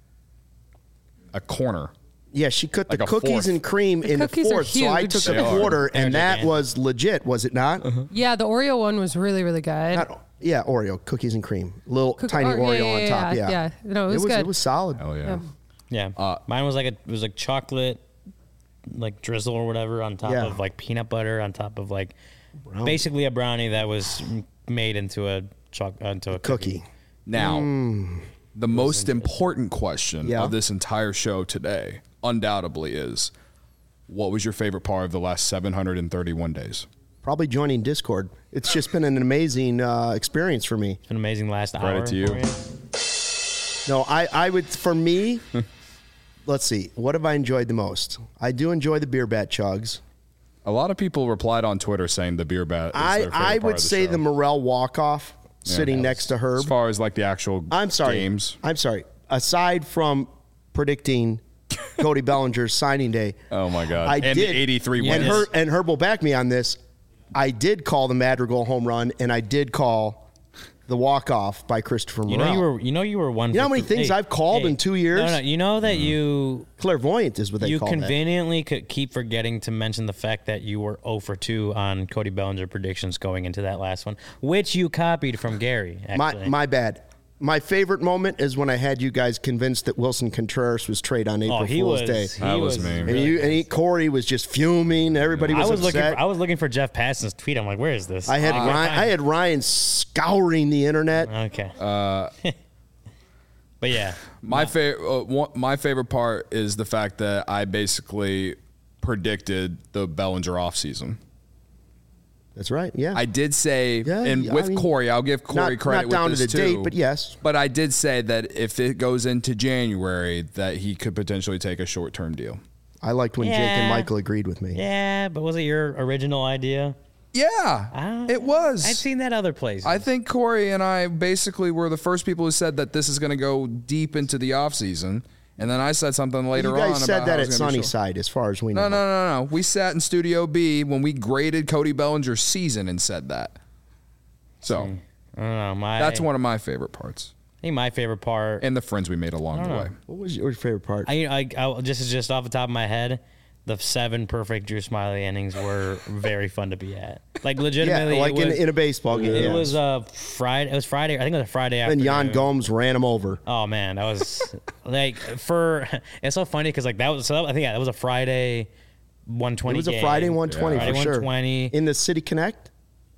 Speaker 3: A corner.
Speaker 1: Yeah, she cut
Speaker 3: Like
Speaker 1: the
Speaker 3: a
Speaker 1: cookies
Speaker 3: fourth.
Speaker 1: and cream
Speaker 2: The
Speaker 1: in the
Speaker 2: cookies are
Speaker 1: fourth. So I
Speaker 2: huge.
Speaker 1: took
Speaker 3: They
Speaker 1: a
Speaker 3: are.
Speaker 1: quarter, and
Speaker 4: They're
Speaker 1: that
Speaker 4: gigantic.
Speaker 1: was legit, was it not?
Speaker 2: Yeah, the Oreo one was really, really good.
Speaker 1: Not, yeah, Oreo, cookies and cream. Little
Speaker 2: Cook-
Speaker 1: tiny
Speaker 2: or-
Speaker 1: Oreo
Speaker 2: yeah,
Speaker 1: on
Speaker 2: yeah,
Speaker 1: top.
Speaker 2: yeah,
Speaker 1: Yeah.
Speaker 2: yeah. No, it was
Speaker 1: It
Speaker 2: good.
Speaker 1: was solid.
Speaker 3: Hell yeah.
Speaker 4: Yeah.
Speaker 3: Uh,
Speaker 4: Mine was like a it was like chocolate like drizzle or whatever on top
Speaker 1: Yeah.
Speaker 4: of like peanut butter on top of like basically a brownie that was made into a choc into a cookie.
Speaker 1: Cookie.
Speaker 3: Now, the most important question
Speaker 1: Yeah.
Speaker 3: of this entire show today, undoubtedly, is what was your favorite part of the last seven hundred thirty-one days?
Speaker 1: Probably joining Discord. It's just been an amazing uh, experience for me.
Speaker 4: It's an amazing last
Speaker 3: Credit
Speaker 4: hour.
Speaker 3: to you.
Speaker 4: for you.
Speaker 1: No, I, I would, for me, let's see, what have I enjoyed the most? I do enjoy the beer bat chugs.
Speaker 3: A lot of people replied on Twitter saying the beer bat. Is
Speaker 1: I,
Speaker 3: their favorite
Speaker 1: I
Speaker 3: part
Speaker 1: would
Speaker 3: of the
Speaker 1: say
Speaker 3: show.
Speaker 1: the Morel walk-off sitting
Speaker 3: Yeah.
Speaker 1: next to Herb.
Speaker 3: As far as like the actual
Speaker 1: I'm sorry.
Speaker 3: games.
Speaker 1: I'm sorry. Aside from predicting Cody Bellinger's signing day,
Speaker 3: Oh my God!
Speaker 1: I
Speaker 3: and
Speaker 1: did,
Speaker 3: the eighty-three
Speaker 1: and
Speaker 3: wins.
Speaker 1: Her, and Herb will back me on this. I did call the Madrigal home run, and I did call the walk-off by Christopher
Speaker 4: You
Speaker 1: Morel.
Speaker 4: know you were you know you were one.
Speaker 1: You know
Speaker 4: for
Speaker 1: how many
Speaker 4: th-
Speaker 1: things
Speaker 4: hey,
Speaker 1: I've called
Speaker 4: hey,
Speaker 1: in two years?
Speaker 4: No, no. You know that you
Speaker 1: Clairvoyant is what they
Speaker 4: you
Speaker 1: call that.
Speaker 4: conveniently could keep forgetting to mention the fact that you were zero for two on Cody Bellinger predictions going into that last one, which you copied from Gary.
Speaker 1: My
Speaker 4: Actually.
Speaker 1: my bad. My favorite moment is when I had you guys convinced that Wilson Contreras was trade on April
Speaker 4: oh, he
Speaker 1: Fool's
Speaker 4: was.
Speaker 1: Day.
Speaker 4: He
Speaker 3: That was me.
Speaker 1: And
Speaker 4: really
Speaker 1: you and he, Corey was just fuming. Everybody
Speaker 4: I
Speaker 1: was,
Speaker 4: was looking.
Speaker 1: upset.
Speaker 4: For, I was looking for Jeff Passan's tweet. I'm like, where is this?
Speaker 1: I had
Speaker 4: Uh,
Speaker 1: Ryan, I had Ryan scouring the internet.
Speaker 4: Okay. Uh, but yeah,
Speaker 3: My favorite, uh, one, my favorite part is the fact that I basically predicted the Bellinger offseason.
Speaker 1: That's right. Yeah.
Speaker 3: I did say,
Speaker 1: Yeah,
Speaker 3: and
Speaker 1: yeah,
Speaker 3: with
Speaker 1: I mean,
Speaker 3: Corey, I'll give Corey
Speaker 1: not,
Speaker 3: credit
Speaker 1: not down
Speaker 3: with
Speaker 1: to
Speaker 3: this
Speaker 1: the
Speaker 3: too.
Speaker 1: date, but yes.
Speaker 3: But I did say that if it goes into January, that he could potentially take a short-term deal.
Speaker 1: I liked when Jake and
Speaker 4: Yeah.
Speaker 1: Michael agreed with me.
Speaker 4: yeah. But was it your original idea?
Speaker 3: Yeah,
Speaker 4: I-
Speaker 3: it was.
Speaker 4: I'd seen that other places.
Speaker 3: I think Corey and I basically were the first people who said that this is going to go deep into the offseason. And then I said something later
Speaker 1: You
Speaker 3: on
Speaker 1: guys said
Speaker 3: about
Speaker 1: that
Speaker 3: how it
Speaker 1: at
Speaker 3: was gonna be short.
Speaker 1: Sunnyside, as far as we know.
Speaker 3: No, no, no, no. We sat in Studio B when we graded Cody Bellinger's season and said that. So
Speaker 4: I don't know. My
Speaker 3: that's one of my favorite parts,
Speaker 4: I think my favorite part.
Speaker 3: and the friends we made along the
Speaker 4: know.
Speaker 3: way.
Speaker 1: What was your favorite part?
Speaker 4: I, I, I just just off the top of my head, the seven perfect Drew Smyly innings were very fun to be at. Like
Speaker 1: yeah,
Speaker 4: legitimately,
Speaker 1: like
Speaker 4: it
Speaker 1: in,
Speaker 4: was,
Speaker 1: in a baseball game.
Speaker 4: it
Speaker 1: yeah.
Speaker 4: was uh Friday. It was Friday. I think it was a Friday
Speaker 1: And
Speaker 4: afternoon.
Speaker 1: Jan Gomes ran him over.
Speaker 4: Oh man, that was like for. It's so funny because like that was. So that, I think yeah, that was a Friday, one
Speaker 1: It
Speaker 4: twenty.
Speaker 1: was a Friday one twenty
Speaker 3: Yeah.
Speaker 1: for
Speaker 4: Friday
Speaker 1: sure.
Speaker 4: one twenty.
Speaker 1: In the City Connect?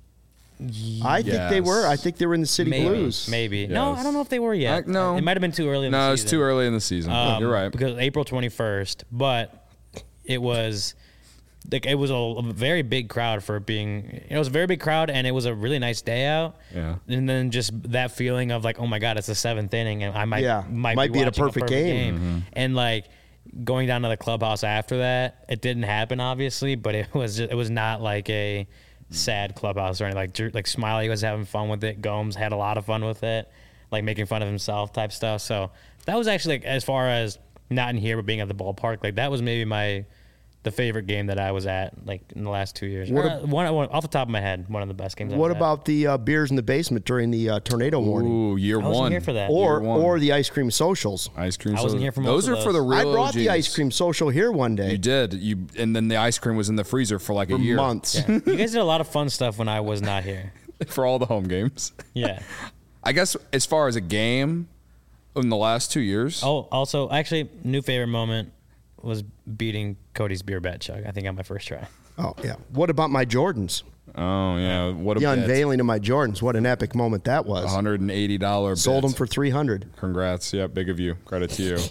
Speaker 1: I think they
Speaker 3: Yes.
Speaker 1: were. I think they were in the City
Speaker 4: Maybe,
Speaker 1: Blues.
Speaker 4: maybe. No,
Speaker 3: Yes.
Speaker 4: I don't know if they were yet.
Speaker 3: Uh, no.
Speaker 4: it might have been too early. In
Speaker 3: No,
Speaker 4: the
Speaker 3: it's
Speaker 4: season.
Speaker 3: too early in the season.
Speaker 4: Um,
Speaker 3: You're right.
Speaker 4: Because April twenty-first, but it was like it was a, a very big crowd for it being. It was a very big crowd, and it was a really nice day out.
Speaker 3: Yeah.
Speaker 4: And then just that feeling of like, oh my god, it's the seventh inning, and I might
Speaker 1: Yeah,
Speaker 4: might,
Speaker 1: might
Speaker 4: be,
Speaker 1: be at a
Speaker 4: watching
Speaker 1: perfect game.
Speaker 3: Mm-hmm.
Speaker 4: And like going down to the clubhouse after that, it didn't happen obviously, but it was just, it was not like a sad clubhouse or anything. Like Drew, like Smyly was having fun with it. Gomes had a lot of fun with it, like making fun of himself type stuff. So that was actually like as far as not in here but being at the ballpark, like that was maybe my the favorite game that I was at like in the last two years.
Speaker 1: What
Speaker 4: Or, uh, one, one off the top of my head, one of the best games. I
Speaker 1: What
Speaker 4: was
Speaker 1: about the uh, beers in the basement during the uh, tornado warning?
Speaker 3: Ooh, year
Speaker 4: at. I wasn't
Speaker 3: one.
Speaker 4: here for that.
Speaker 1: Or
Speaker 3: Year one.
Speaker 1: or the ice cream socials.
Speaker 3: Ice cream.
Speaker 4: I wasn't
Speaker 3: soda.
Speaker 4: here for
Speaker 3: Those
Speaker 4: most of
Speaker 3: are for the
Speaker 4: those.
Speaker 3: real.
Speaker 1: I brought the
Speaker 3: O Gs.
Speaker 1: ice cream social here one day.
Speaker 3: You did. You and then the ice cream was in the freezer for like
Speaker 1: for
Speaker 3: a year.
Speaker 1: months.
Speaker 4: you guys did a lot of fun stuff when I was not here.
Speaker 3: for all the home games.
Speaker 4: Yeah.
Speaker 3: I guess as far as a game in the last two years.
Speaker 4: Oh, also, actually, new favorite moment was beating Cody's beer bat chug. I think on my first try.
Speaker 1: Oh yeah. What about my Jordans?
Speaker 3: Oh yeah, what a
Speaker 1: The
Speaker 3: bet.
Speaker 1: unveiling of my Jordans. What an epic moment that was.
Speaker 3: one hundred eighty dollars.
Speaker 1: Sold them for three hundred.
Speaker 3: Congrats. Yeah, big of you. Credit to you.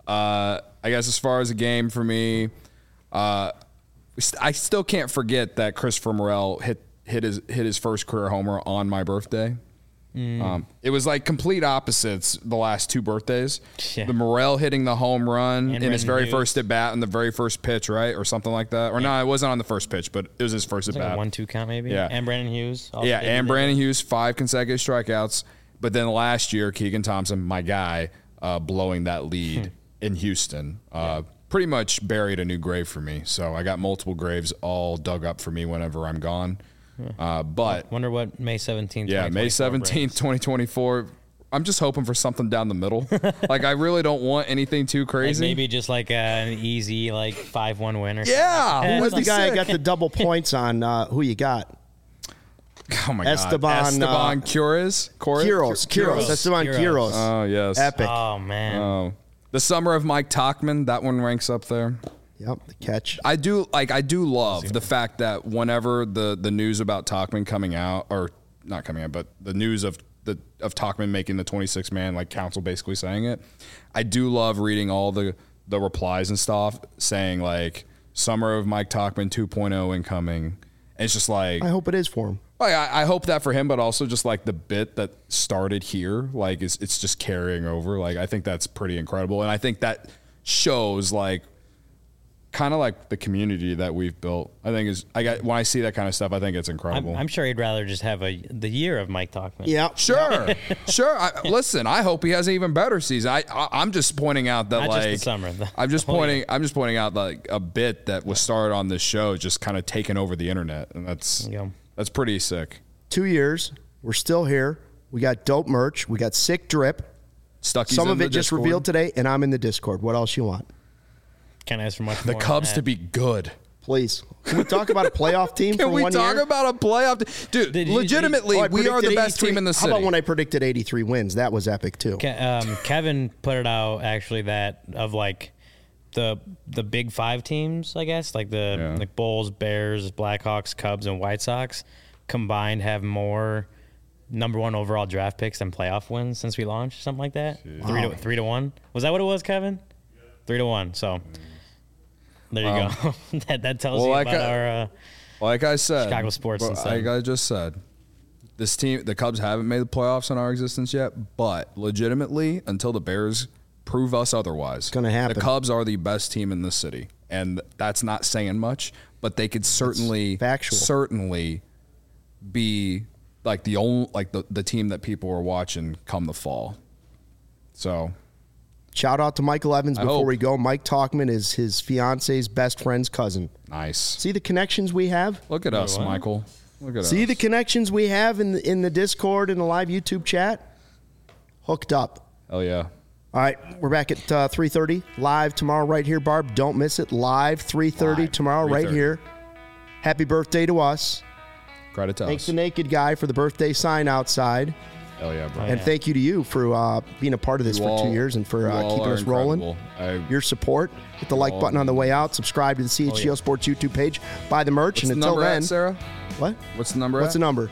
Speaker 3: Uh, I guess as far as a game for me, uh, I still can't forget that Christopher Morel hit hit his hit his first career homer on my birthday. Mm. Um, it was like complete opposites the last two birthdays. Yeah. The Morel hitting the home run and in his very Hughes. first at bat and the very first pitch, right, or something like that. Or yeah. no, it wasn't on the first pitch, but it was his first at bat.
Speaker 4: Like a one-two count, maybe.
Speaker 3: Yeah,
Speaker 4: and Brandon Hughes.
Speaker 3: Yeah, and Brandon Hughes, five consecutive strikeouts. But then last year, Keegan Thompson, my guy, uh, blowing that lead in Houston, uh, yeah. pretty much buried a new grave for me. So I got multiple graves all dug up for me whenever I'm gone. Uh, but
Speaker 4: wonder what May seventeenth.
Speaker 3: Yeah, May seventeenth, twenty twenty-four. I'm just hoping for something down the middle. Like I really don't want anything too crazy.
Speaker 4: Like maybe just like uh, an easy like five one win or
Speaker 3: yeah.
Speaker 4: something.
Speaker 1: Who was the guy that got the double points on? Uh, who you got?
Speaker 3: Oh my
Speaker 1: Esteban,
Speaker 3: God, Esteban
Speaker 1: uh,
Speaker 3: Quiroz,
Speaker 1: Quiroz, Quiroz, Esteban Quiroz.
Speaker 3: Oh yes,
Speaker 1: epic.
Speaker 4: Oh man.
Speaker 3: Oh, the summer of Mike Tauchman. That one ranks up there.
Speaker 1: Yep, the catch.
Speaker 3: I do like. I do love the fact that whenever the, the news about Tauchman coming out, or not coming out, but the news of the of Tauchman making the twenty-six man like council basically saying it, I do love reading all the the replies and stuff saying like summer of Mike Tauchman two point oh incoming. And it's just like
Speaker 1: I hope it is for him.
Speaker 3: Like, I, I hope that for him, but also just like the bit that started here, like it's it's just carrying over. Like I think that's pretty incredible, and I think that shows like. Kind of like the community that we've built. I think is I got when I see that kind of stuff, I think it's incredible.
Speaker 4: I'm, I'm sure he'd rather just have a the year of Mike Tauchman.
Speaker 1: Yeah,
Speaker 3: sure, sure. I, listen, I hope he has an even better season. I, I I'm just pointing out that
Speaker 4: Not
Speaker 3: like
Speaker 4: just the summer. The,
Speaker 3: I'm just
Speaker 4: the
Speaker 3: pointing.
Speaker 4: year.
Speaker 3: I'm just pointing out like a bit that was started on this show, just kind of taking over the internet, and that's that's pretty sick.
Speaker 1: Two years, we're still here. We got dope merch. We got sick drip.
Speaker 3: Stucky's
Speaker 1: Some
Speaker 3: in
Speaker 1: of
Speaker 3: the
Speaker 1: it just
Speaker 3: Discord.
Speaker 1: revealed today, and I'm in the Discord. What else you want?
Speaker 4: Can't ask for much
Speaker 3: The
Speaker 4: more
Speaker 3: Cubs
Speaker 4: than
Speaker 3: to
Speaker 4: that.
Speaker 3: be good.
Speaker 1: Please. Can we talk about a playoff team
Speaker 3: Can
Speaker 1: for
Speaker 3: we
Speaker 1: one
Speaker 3: talk
Speaker 1: year?
Speaker 3: about a playoff? T- Dude,
Speaker 4: Did you-
Speaker 3: legitimately,
Speaker 1: Oh, I
Speaker 3: we are the
Speaker 1: predicted
Speaker 3: best
Speaker 1: eighty-three
Speaker 3: team in the city.
Speaker 1: How about when I predicted eighty-three wins? That was epic, too.
Speaker 4: Ke- um, Kevin put it out actually that of like the the big five teams, I guess, like the
Speaker 3: Yeah.
Speaker 4: like Bulls, Bears, Blackhawks, Cubs, and White Sox combined have more number one overall draft picks than playoff wins since we launched, something like that. Three
Speaker 1: Wow.
Speaker 4: to three to one. Was that what it was, Kevin? Yeah. Three to one. So there you
Speaker 3: Um,
Speaker 4: go. that that tells
Speaker 3: well,
Speaker 4: you
Speaker 3: like
Speaker 4: about
Speaker 3: I-
Speaker 4: our. Uh,
Speaker 3: Like I said,
Speaker 4: Chicago sports
Speaker 3: but
Speaker 4: instead.
Speaker 3: like I just said, this team, the Cubs haven't made the playoffs in our existence yet, but legitimately, until the Bears prove us otherwise,
Speaker 1: gonna happen.
Speaker 3: The Cubs are the best team in the city, and that's not saying much, but they could certainly,
Speaker 1: factual.
Speaker 3: certainly be like the only, like the, the team that people are watching come the fall. So.
Speaker 1: Shout out to Michael Evans
Speaker 3: I
Speaker 1: before
Speaker 3: hope.
Speaker 1: we go. Mike Tauchman is his fiance's best friend's cousin.
Speaker 3: Nice.
Speaker 1: See the connections we have?
Speaker 3: Look at us,
Speaker 4: what?
Speaker 3: Michael. Look at
Speaker 1: See
Speaker 3: us.
Speaker 1: the connections we have in the, in the Discord and the live YouTube chat? Hooked up.
Speaker 3: Oh yeah.
Speaker 1: All right, we're back at uh, three thirty live tomorrow right here, Barb. Don't miss it. Live three thirty
Speaker 3: Live,
Speaker 1: tomorrow right
Speaker 3: three thirty.
Speaker 1: here. Happy birthday to us.
Speaker 3: Credit to
Speaker 1: Thanks
Speaker 3: us.
Speaker 1: to Naked Guy for the birthday sign outside.
Speaker 3: Hell yeah, bro.
Speaker 1: And
Speaker 4: yeah.
Speaker 1: thank you to you for uh, being a part of this
Speaker 3: You
Speaker 1: for
Speaker 3: all-
Speaker 1: two years and for
Speaker 3: you
Speaker 1: uh,
Speaker 3: all
Speaker 1: keeping
Speaker 3: are
Speaker 1: us rolling.
Speaker 3: incredible. I-
Speaker 1: Your support. Hit the like
Speaker 3: all
Speaker 1: button on the
Speaker 3: mean-
Speaker 1: way out. Subscribe to the C H G O
Speaker 4: yeah.
Speaker 1: Sports YouTube page. Buy the merch.
Speaker 3: What's
Speaker 1: and
Speaker 3: the
Speaker 1: until
Speaker 3: number
Speaker 1: then,
Speaker 3: at, Sarah?
Speaker 1: what?
Speaker 3: What's the number
Speaker 1: What's the
Speaker 3: at?
Speaker 1: number?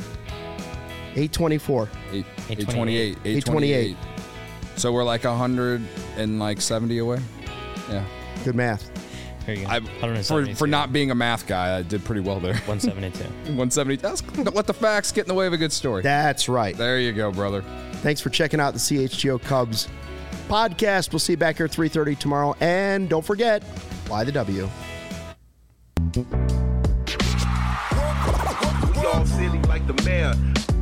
Speaker 1: eight twenty-four.
Speaker 3: Eight,
Speaker 4: eight
Speaker 3: eight twenty-eight.
Speaker 1: eight twenty-eight.
Speaker 3: So we're like one hundred seventy away? Yeah.
Speaker 1: Good math.
Speaker 4: Here you go.
Speaker 3: I,
Speaker 4: one
Speaker 3: for,
Speaker 4: seventy-two.
Speaker 3: for not being a math guy, I did pretty well there.
Speaker 4: one seventy-two.
Speaker 3: one seventy. That's, let the facts get in the way of a good story.
Speaker 1: That's right.
Speaker 3: There you go, brother.
Speaker 1: Thanks for checking out the C H G O Cubs podcast. We'll see you back here at three thirty tomorrow. And don't forget, fly the W.
Speaker 5: We all silly like the mayor.